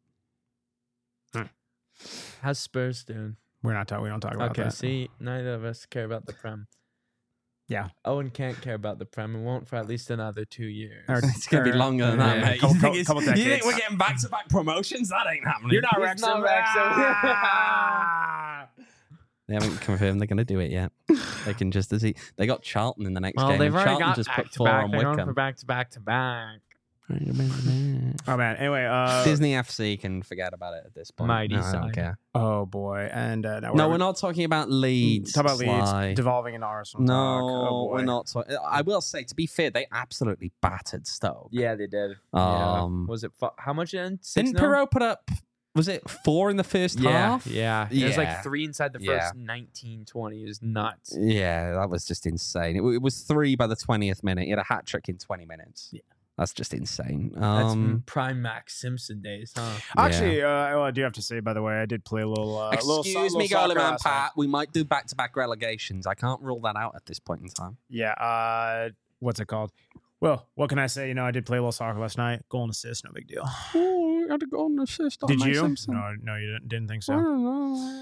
[SPEAKER 2] how's Spurs doing?
[SPEAKER 1] We're not talking. We don't talk about
[SPEAKER 2] Okay,
[SPEAKER 1] that.
[SPEAKER 2] see, neither of us care about the Prem.
[SPEAKER 1] Yeah.
[SPEAKER 2] Owen can't care about the Prem and won't for at least another two years.
[SPEAKER 1] Or-
[SPEAKER 7] it's going to be
[SPEAKER 1] or-
[SPEAKER 7] longer than
[SPEAKER 1] yeah,
[SPEAKER 7] that, mate.
[SPEAKER 1] Couple,
[SPEAKER 7] you, think
[SPEAKER 1] couple,
[SPEAKER 7] it's-
[SPEAKER 1] couple
[SPEAKER 7] you think
[SPEAKER 1] decades.
[SPEAKER 7] we're getting back-to-back promotions? That ain't happening.
[SPEAKER 1] You're not
[SPEAKER 2] He's
[SPEAKER 1] Wrexham.
[SPEAKER 2] not Wrexham.
[SPEAKER 1] Ah!
[SPEAKER 7] They haven't confirmed they're going to do it yet. They can just as he, they got Charlton in the next
[SPEAKER 2] Well,
[SPEAKER 7] game.
[SPEAKER 2] they've
[SPEAKER 7] and
[SPEAKER 2] already
[SPEAKER 7] Charlton
[SPEAKER 2] got
[SPEAKER 7] just
[SPEAKER 2] back
[SPEAKER 7] put
[SPEAKER 2] to
[SPEAKER 7] four
[SPEAKER 2] back.
[SPEAKER 7] on
[SPEAKER 2] They're going for
[SPEAKER 7] Wickham.
[SPEAKER 2] back to back to back.
[SPEAKER 1] Oh man. Anyway. Uh.
[SPEAKER 7] Disney F C can forget about it at this point.
[SPEAKER 2] Mighty
[SPEAKER 7] no, I don't
[SPEAKER 2] side.
[SPEAKER 7] care.
[SPEAKER 1] Oh boy. And uh, now
[SPEAKER 7] No, we're not talking about Leeds.
[SPEAKER 1] Talk about
[SPEAKER 7] Sly.
[SPEAKER 1] Leeds devolving into Arsenal.
[SPEAKER 7] No,
[SPEAKER 1] talk. Oh, boy.
[SPEAKER 7] we're not. Talk- I will say, to be fair, they absolutely battered Stoke.
[SPEAKER 2] Yeah, they did.
[SPEAKER 7] Um,
[SPEAKER 2] yeah. Was it fu- how much in? Six
[SPEAKER 7] Didn't
[SPEAKER 2] nil?
[SPEAKER 7] Perot put up? Was it four in the first
[SPEAKER 2] Yeah,
[SPEAKER 7] half?
[SPEAKER 2] yeah. It was
[SPEAKER 7] Yeah.
[SPEAKER 2] like three inside the first
[SPEAKER 7] Yeah.
[SPEAKER 2] nineteen, twenty. It was nuts.
[SPEAKER 7] Yeah, that was just insane. It, w- it was three by the twentieth minute. He had a hat trick in twenty minutes.
[SPEAKER 2] Yeah.
[SPEAKER 7] That's just insane.
[SPEAKER 2] That's
[SPEAKER 7] Um,
[SPEAKER 2] prime Max Simpson days, huh?
[SPEAKER 1] Actually, uh, well, I do have to say, by the way, I did play a little. Uh, little so-
[SPEAKER 7] excuse me,
[SPEAKER 1] little soccer
[SPEAKER 7] Goalie Man
[SPEAKER 1] last night.
[SPEAKER 7] Pat. We might do back-to-back relegations. I can't rule that out at this point in time.
[SPEAKER 1] Yeah. Uh, what's it called? Well, what can I say? You know, I did play a little soccer last night. Goal and assist, no big deal.
[SPEAKER 7] Oh, I had a goal and assist.
[SPEAKER 1] Did you? No, no, you didn't, didn't think so.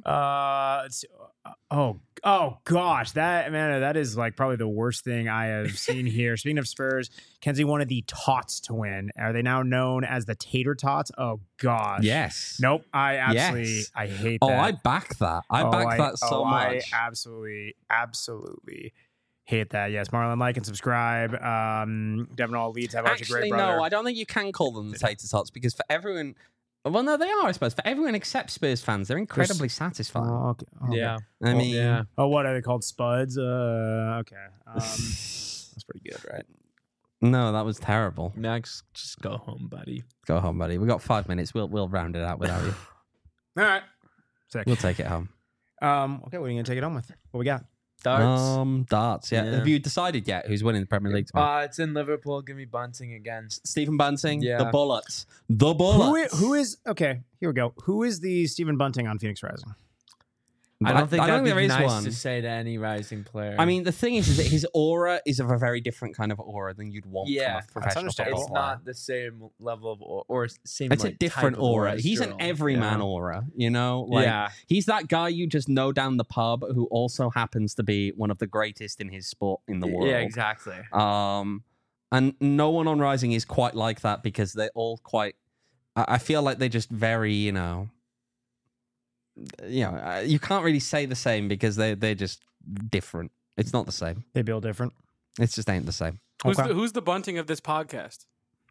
[SPEAKER 1] Uh, let's see. oh, oh gosh, that man, that is like probably the worst thing I have seen here. Speaking of Spurs, Kenzie wanted the Tots to win. Are they now known as the Tater Tots? Oh gosh,
[SPEAKER 7] Yes.
[SPEAKER 1] Nope, I absolutely,
[SPEAKER 7] Yes.
[SPEAKER 1] I hate
[SPEAKER 7] Oh,
[SPEAKER 1] that.
[SPEAKER 7] I back that. I
[SPEAKER 1] Oh,
[SPEAKER 7] back
[SPEAKER 1] I-
[SPEAKER 7] that so
[SPEAKER 1] oh,
[SPEAKER 7] much.
[SPEAKER 1] I absolutely, absolutely hate that. Yes, Marlon, like and subscribe. Um, Devin all leads have a
[SPEAKER 7] Actually,
[SPEAKER 1] great brother.
[SPEAKER 7] no, I don't think you can call them the tater tots because for everyone, well, no, they are, I suppose. For everyone except Spurs fans, they're incredibly satisfying.
[SPEAKER 1] Oh, okay. okay.
[SPEAKER 2] Yeah.
[SPEAKER 7] I
[SPEAKER 1] well,
[SPEAKER 7] mean,
[SPEAKER 2] yeah.
[SPEAKER 1] Oh, what are they called? Spuds? Uh, okay. Um, that's pretty good, right?
[SPEAKER 7] no, that was terrible.
[SPEAKER 2] Max, just go home, buddy.
[SPEAKER 7] Go home, buddy. We got five minutes. We'll we'll round it out without you.
[SPEAKER 1] All right. Sick.
[SPEAKER 7] We'll take it home.
[SPEAKER 1] Um, okay, what are you gonna take it home with? What we got?
[SPEAKER 2] Darts.
[SPEAKER 7] Um, darts. Yeah.
[SPEAKER 2] Yeah.
[SPEAKER 7] Have you decided yet who's winning the Premier League tomorrow?
[SPEAKER 2] uh, it's in Liverpool. Give me Bunting again.
[SPEAKER 7] Stephen Bunting.
[SPEAKER 2] yeah.
[SPEAKER 7] The Bullets. The
[SPEAKER 1] Who
[SPEAKER 7] Bullets.
[SPEAKER 1] is, who is okay? Here we go. Who is the Stephen Bunting on Phoenix Rising?
[SPEAKER 2] I don't think
[SPEAKER 7] I
[SPEAKER 2] that'd
[SPEAKER 7] don't think
[SPEAKER 2] be
[SPEAKER 7] there is
[SPEAKER 2] nice
[SPEAKER 7] one.
[SPEAKER 2] to say to any rising player.
[SPEAKER 7] I mean, the thing is, is that his aura is of a very different kind of aura than you'd want
[SPEAKER 2] Yeah,
[SPEAKER 7] from a professional
[SPEAKER 1] understandable.
[SPEAKER 7] footballer.
[SPEAKER 2] it's not the same level of or, or same.
[SPEAKER 7] It's
[SPEAKER 2] like,
[SPEAKER 7] a different
[SPEAKER 2] type of
[SPEAKER 7] aura.
[SPEAKER 2] as
[SPEAKER 7] He's an
[SPEAKER 2] Sterling.
[SPEAKER 7] everyman
[SPEAKER 2] Yeah.
[SPEAKER 7] aura, you know? Like,
[SPEAKER 2] yeah,
[SPEAKER 7] he's that guy you just know down the pub who also happens to be one of the greatest in his sport in the world.
[SPEAKER 2] yeah, exactly.
[SPEAKER 7] Um, and no one on Rising is quite like that because they're all quite. I, I feel like they're just very, you know. You know, uh, you can't really say the same because they they're just different. It's not the same.
[SPEAKER 1] They build different.
[SPEAKER 7] It just ain't the same.
[SPEAKER 4] Who's,
[SPEAKER 1] Okay.
[SPEAKER 4] the, who's the bunting of this podcast?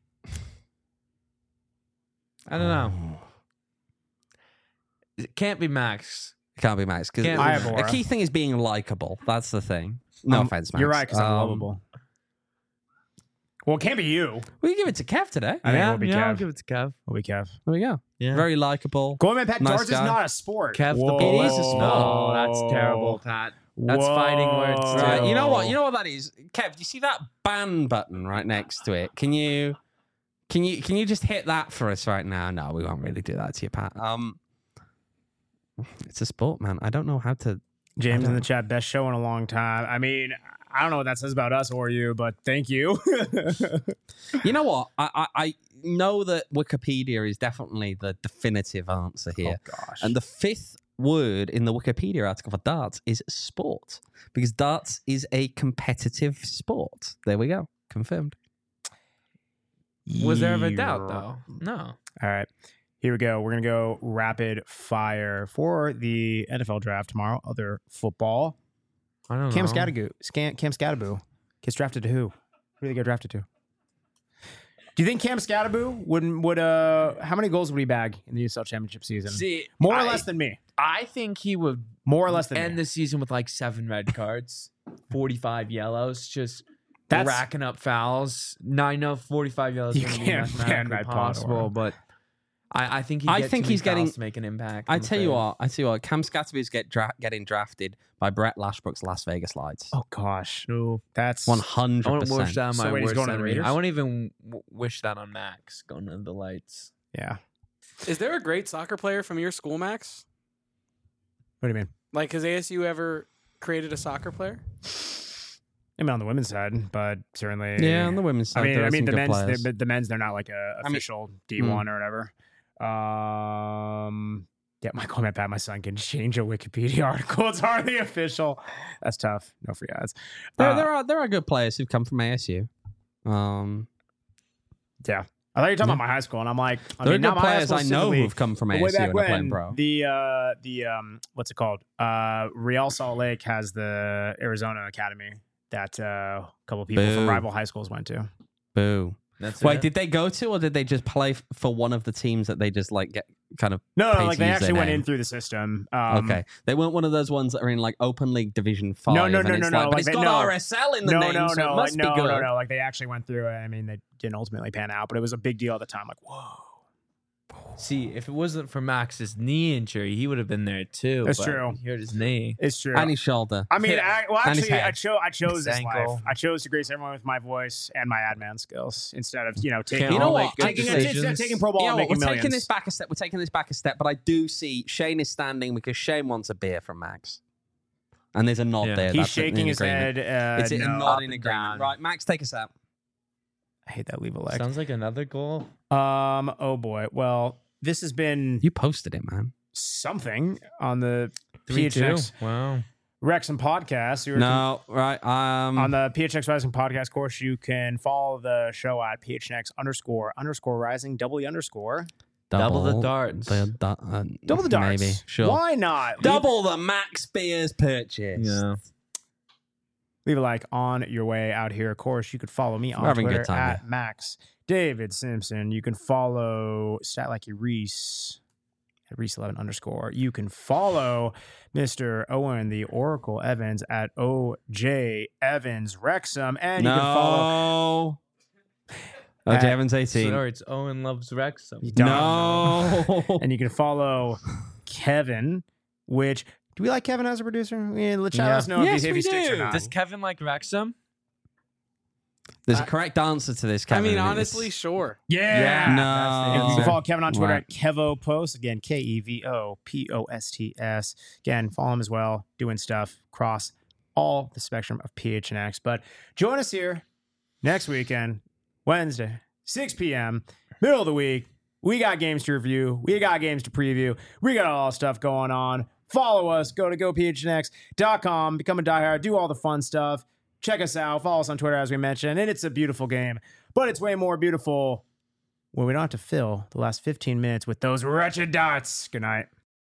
[SPEAKER 2] I don't know. It can't be Max.
[SPEAKER 7] It can't be Max because
[SPEAKER 2] Can't
[SPEAKER 1] I have
[SPEAKER 7] a
[SPEAKER 1] aura.
[SPEAKER 7] key thing is being likable. That's the thing. No
[SPEAKER 1] Um,
[SPEAKER 7] offense, Max.
[SPEAKER 1] You're right because I'm
[SPEAKER 7] Um,
[SPEAKER 1] lovable. Well, it can't be you.
[SPEAKER 7] We can give it to Kev today.
[SPEAKER 1] I think
[SPEAKER 2] yeah,
[SPEAKER 1] it will be
[SPEAKER 2] yeah, I'll
[SPEAKER 1] Kev.
[SPEAKER 2] give it to Kev.
[SPEAKER 1] Will be Kev.
[SPEAKER 7] There we go.
[SPEAKER 2] Yeah.
[SPEAKER 7] Very likable.
[SPEAKER 1] Going man, Pat,
[SPEAKER 7] Nice
[SPEAKER 1] darts
[SPEAKER 7] guy.
[SPEAKER 1] is not a sport.
[SPEAKER 2] Kev the
[SPEAKER 1] Whoa.
[SPEAKER 2] bullet.
[SPEAKER 7] It is a sport.
[SPEAKER 2] No, that's terrible, Pat. That's fighting words, too.
[SPEAKER 7] Right, you know what? You know what that is, Kev. Do you see that ban button right next to it? Can you, can you, can you just hit that for us right now? No, we won't really do that to you, Pat. Um, it's a sport, man. I don't know how to.
[SPEAKER 1] James
[SPEAKER 7] I
[SPEAKER 1] in the
[SPEAKER 7] don't-
[SPEAKER 1] chat, best show in a long time. I mean, I don't know what that says about us or you, but thank you.
[SPEAKER 7] You know what? I, I, I know that Wikipedia is definitely the definitive answer here,
[SPEAKER 1] Oh gosh.
[SPEAKER 7] and the fifth word in the Wikipedia article for darts is sport, because darts is a competitive sport. There we go, confirmed.
[SPEAKER 2] Was there ever a doubt
[SPEAKER 1] Yeah.
[SPEAKER 2] though? No.
[SPEAKER 1] All right. Here we go. We're going to go rapid fire for the N F L draft tomorrow. Other football.
[SPEAKER 2] I don't
[SPEAKER 1] Cam
[SPEAKER 2] know.
[SPEAKER 1] Scattergoo. Scan, Cam Scattergoo gets drafted to who? Who do they get drafted to? Do you think Cam Scattergoo would would uh how many goals would he bag in the U S L Championship season?
[SPEAKER 2] See,
[SPEAKER 1] More or
[SPEAKER 2] I-
[SPEAKER 1] less than me.
[SPEAKER 2] I think he would
[SPEAKER 1] More or less than
[SPEAKER 2] end
[SPEAKER 1] me.
[SPEAKER 2] the season with like seven red cards, forty-five yellows, just
[SPEAKER 1] That's
[SPEAKER 2] racking up fouls. Now I know forty-five yellows
[SPEAKER 1] You
[SPEAKER 2] is gonna
[SPEAKER 1] can't
[SPEAKER 2] be
[SPEAKER 1] ban
[SPEAKER 2] mathematically
[SPEAKER 1] Red Pod
[SPEAKER 2] possible,
[SPEAKER 1] or-
[SPEAKER 2] but I, I think he'd
[SPEAKER 7] I
[SPEAKER 2] get
[SPEAKER 7] think
[SPEAKER 2] too many
[SPEAKER 7] he's getting-
[SPEAKER 2] fouls to make an impact.
[SPEAKER 7] I
[SPEAKER 2] I'm
[SPEAKER 7] tell you
[SPEAKER 2] afraid.
[SPEAKER 7] what, I tell you what, Cam Scattergood's get dra- getting drafted by Brett Lashbrook's Las Vegas Lights.
[SPEAKER 1] Oh gosh.
[SPEAKER 2] No.
[SPEAKER 1] That's
[SPEAKER 7] One
[SPEAKER 2] I
[SPEAKER 7] hundred
[SPEAKER 2] wouldn't wish
[SPEAKER 7] percent.
[SPEAKER 2] that on
[SPEAKER 1] So
[SPEAKER 2] my
[SPEAKER 1] wait, he's
[SPEAKER 2] worst
[SPEAKER 1] going to the
[SPEAKER 2] enemy.
[SPEAKER 1] Raiders?
[SPEAKER 2] I wouldn't even w- wish that on Max going to the lights.
[SPEAKER 1] yeah.
[SPEAKER 4] Is there a great soccer player from your school, Max?
[SPEAKER 1] What do you mean?
[SPEAKER 4] Like, has A S U ever created a soccer player?
[SPEAKER 1] I mean on the women's side, but certainly
[SPEAKER 7] Yeah, on the women's side,
[SPEAKER 1] I mean,
[SPEAKER 7] there
[SPEAKER 1] I
[SPEAKER 7] are
[SPEAKER 1] mean
[SPEAKER 7] some
[SPEAKER 1] the
[SPEAKER 7] good
[SPEAKER 1] men's,
[SPEAKER 7] players.
[SPEAKER 1] the, the men's, they're not like a
[SPEAKER 7] I mean-
[SPEAKER 1] official D one or whatever. Um, yeah, my comment back. My son can change a Wikipedia article. It's hardly official. That's tough. No free ads.
[SPEAKER 7] There,
[SPEAKER 1] Uh,
[SPEAKER 7] there are there are good players who've come from A S U. Um,
[SPEAKER 1] yeah, I thought you were talking about my high school, and I'm like, I
[SPEAKER 7] there
[SPEAKER 1] mean,
[SPEAKER 7] are
[SPEAKER 1] not
[SPEAKER 7] good
[SPEAKER 1] my high
[SPEAKER 7] players
[SPEAKER 1] school
[SPEAKER 7] I know
[SPEAKER 1] specifically,
[SPEAKER 7] who've come from
[SPEAKER 1] but
[SPEAKER 7] A
[SPEAKER 1] way
[SPEAKER 7] S U
[SPEAKER 1] back
[SPEAKER 7] and are playing
[SPEAKER 1] when
[SPEAKER 7] pro.
[SPEAKER 1] the uh, the um, what's it called? Uh, Real Salt Lake has the Arizona Academy that uh, a couple people from
[SPEAKER 7] Boo.
[SPEAKER 1] rival high schools went to.
[SPEAKER 7] Boo.
[SPEAKER 2] That's
[SPEAKER 7] Wait,
[SPEAKER 2] it.
[SPEAKER 7] did they go to, or did they just play f- for one of the teams that they just like get kind of?
[SPEAKER 1] No,
[SPEAKER 7] Pay
[SPEAKER 1] no,
[SPEAKER 7] to
[SPEAKER 1] like they
[SPEAKER 7] use
[SPEAKER 1] actually
[SPEAKER 7] their
[SPEAKER 1] went
[SPEAKER 7] name.
[SPEAKER 1] in through the system. Um,
[SPEAKER 7] Okay, they weren't one of those ones that are in like Open League Division Five.
[SPEAKER 1] No, no,
[SPEAKER 7] and
[SPEAKER 1] no,
[SPEAKER 7] it's
[SPEAKER 1] no,
[SPEAKER 7] like,
[SPEAKER 1] no,
[SPEAKER 7] But
[SPEAKER 1] like
[SPEAKER 7] it's
[SPEAKER 1] they-
[SPEAKER 7] got
[SPEAKER 1] no.
[SPEAKER 7] R S L in the
[SPEAKER 1] no,
[SPEAKER 7] name,
[SPEAKER 1] no,
[SPEAKER 7] so
[SPEAKER 1] no,
[SPEAKER 7] it must
[SPEAKER 1] like, no,
[SPEAKER 7] be good.
[SPEAKER 1] no, no. Like they actually went through it. I mean, they didn't ultimately pan out, but it was a big deal at the time. Like, whoa,
[SPEAKER 2] See, if it wasn't for Max's knee injury, he would have been there too.
[SPEAKER 1] That's
[SPEAKER 2] but
[SPEAKER 1] true.
[SPEAKER 2] He hurt his knee.
[SPEAKER 1] it's true.
[SPEAKER 7] And his shoulder.
[SPEAKER 1] I mean, I, well,
[SPEAKER 7] And his
[SPEAKER 1] actually, I
[SPEAKER 7] head.
[SPEAKER 1] chose. I chose
[SPEAKER 2] His
[SPEAKER 1] this
[SPEAKER 2] ankle.
[SPEAKER 1] life. I chose to grace everyone with my voice and my admin skills instead of you know taking.
[SPEAKER 2] Can't
[SPEAKER 7] You know
[SPEAKER 2] all
[SPEAKER 7] what?
[SPEAKER 2] make good
[SPEAKER 7] Taking a-
[SPEAKER 1] instead of
[SPEAKER 2] decisions.
[SPEAKER 1] taking pro ball
[SPEAKER 7] You know
[SPEAKER 1] and
[SPEAKER 7] what, we're
[SPEAKER 1] making
[SPEAKER 7] taking
[SPEAKER 1] millions.
[SPEAKER 7] this back a step. We're taking this back a step, but I do see Shane is standing because Shane wants a beer from Max, and there's a nod
[SPEAKER 2] Yeah.
[SPEAKER 7] there.
[SPEAKER 1] He's
[SPEAKER 7] That's
[SPEAKER 1] shaking
[SPEAKER 7] in
[SPEAKER 1] his
[SPEAKER 7] agreement.
[SPEAKER 1] head. Uh,
[SPEAKER 7] It's a
[SPEAKER 1] no.
[SPEAKER 7] nod
[SPEAKER 2] Up
[SPEAKER 7] in
[SPEAKER 2] and
[SPEAKER 7] agreement.
[SPEAKER 2] down.
[SPEAKER 7] Right, Max, take us out.
[SPEAKER 1] I hate that leave a leg.
[SPEAKER 2] Sounds like another goal.
[SPEAKER 1] Um. Oh boy. Well, this has been.
[SPEAKER 7] You posted it, man.
[SPEAKER 1] something on the
[SPEAKER 2] Three two.
[SPEAKER 1] PHNX
[SPEAKER 2] Wow.
[SPEAKER 1] Wrexham podcast. You were
[SPEAKER 7] No, right. Um,
[SPEAKER 1] on the P H N X Rising podcast course, you can follow the show at P H N X underscore underscore rising double underscore
[SPEAKER 2] Double the darts.
[SPEAKER 7] the da- uh,
[SPEAKER 1] double the darts.
[SPEAKER 7] Maybe. Sure.
[SPEAKER 1] Why not? Leave,
[SPEAKER 7] Double the Max Beers purchase.
[SPEAKER 2] Yeah.
[SPEAKER 1] leave a like on your way out here. Of course, you could follow me on
[SPEAKER 7] We're having a
[SPEAKER 1] Twitter
[SPEAKER 7] good time
[SPEAKER 1] at
[SPEAKER 7] here.
[SPEAKER 1] Max David Simpson. You can follow Stat Like You Reese at Reese eleven underscore. You can follow Mister Owen the Oracle Evans at O J Evans Wrexham, and you
[SPEAKER 7] no.
[SPEAKER 1] can follow.
[SPEAKER 7] Oh,
[SPEAKER 1] at-
[SPEAKER 7] Javon's eighteen.
[SPEAKER 2] Sorry, it's Owen loves Wrexham.
[SPEAKER 1] You don't.
[SPEAKER 7] No.
[SPEAKER 1] And you can follow Kevin, which do we like Kevin as a producer? Yeah, let shout
[SPEAKER 2] Yeah.
[SPEAKER 1] us know
[SPEAKER 7] Yes,
[SPEAKER 1] if he, if
[SPEAKER 7] we
[SPEAKER 1] he sticks or
[SPEAKER 7] do.
[SPEAKER 1] not.
[SPEAKER 2] Does Kevin like Wrexham?
[SPEAKER 7] There's a correct answer to this,
[SPEAKER 4] I
[SPEAKER 7] Kevin.
[SPEAKER 4] mean,
[SPEAKER 7] and
[SPEAKER 4] honestly,
[SPEAKER 7] it's-
[SPEAKER 4] sure.
[SPEAKER 1] yeah.
[SPEAKER 7] No.
[SPEAKER 1] And you can
[SPEAKER 7] answer.
[SPEAKER 1] follow Kevin on Twitter
[SPEAKER 7] Right.
[SPEAKER 1] at Kevo Post. Again, K E V O P O S T S. Again, follow him as well, doing stuff across all the spectrum of P H N X. But join us here next weekend, Wednesday, six p.m., middle of the week. We got games to review. We got games to preview. We got all stuff going on. Follow us. Go to go P H N X dot com. Become a diehard. Do all the fun stuff. Check us out. Follow us on Twitter, as we mentioned. And it's a beautiful game. But it's way more beautiful when we don't have to fill the last fifteen minutes with those wretched dots. Good night.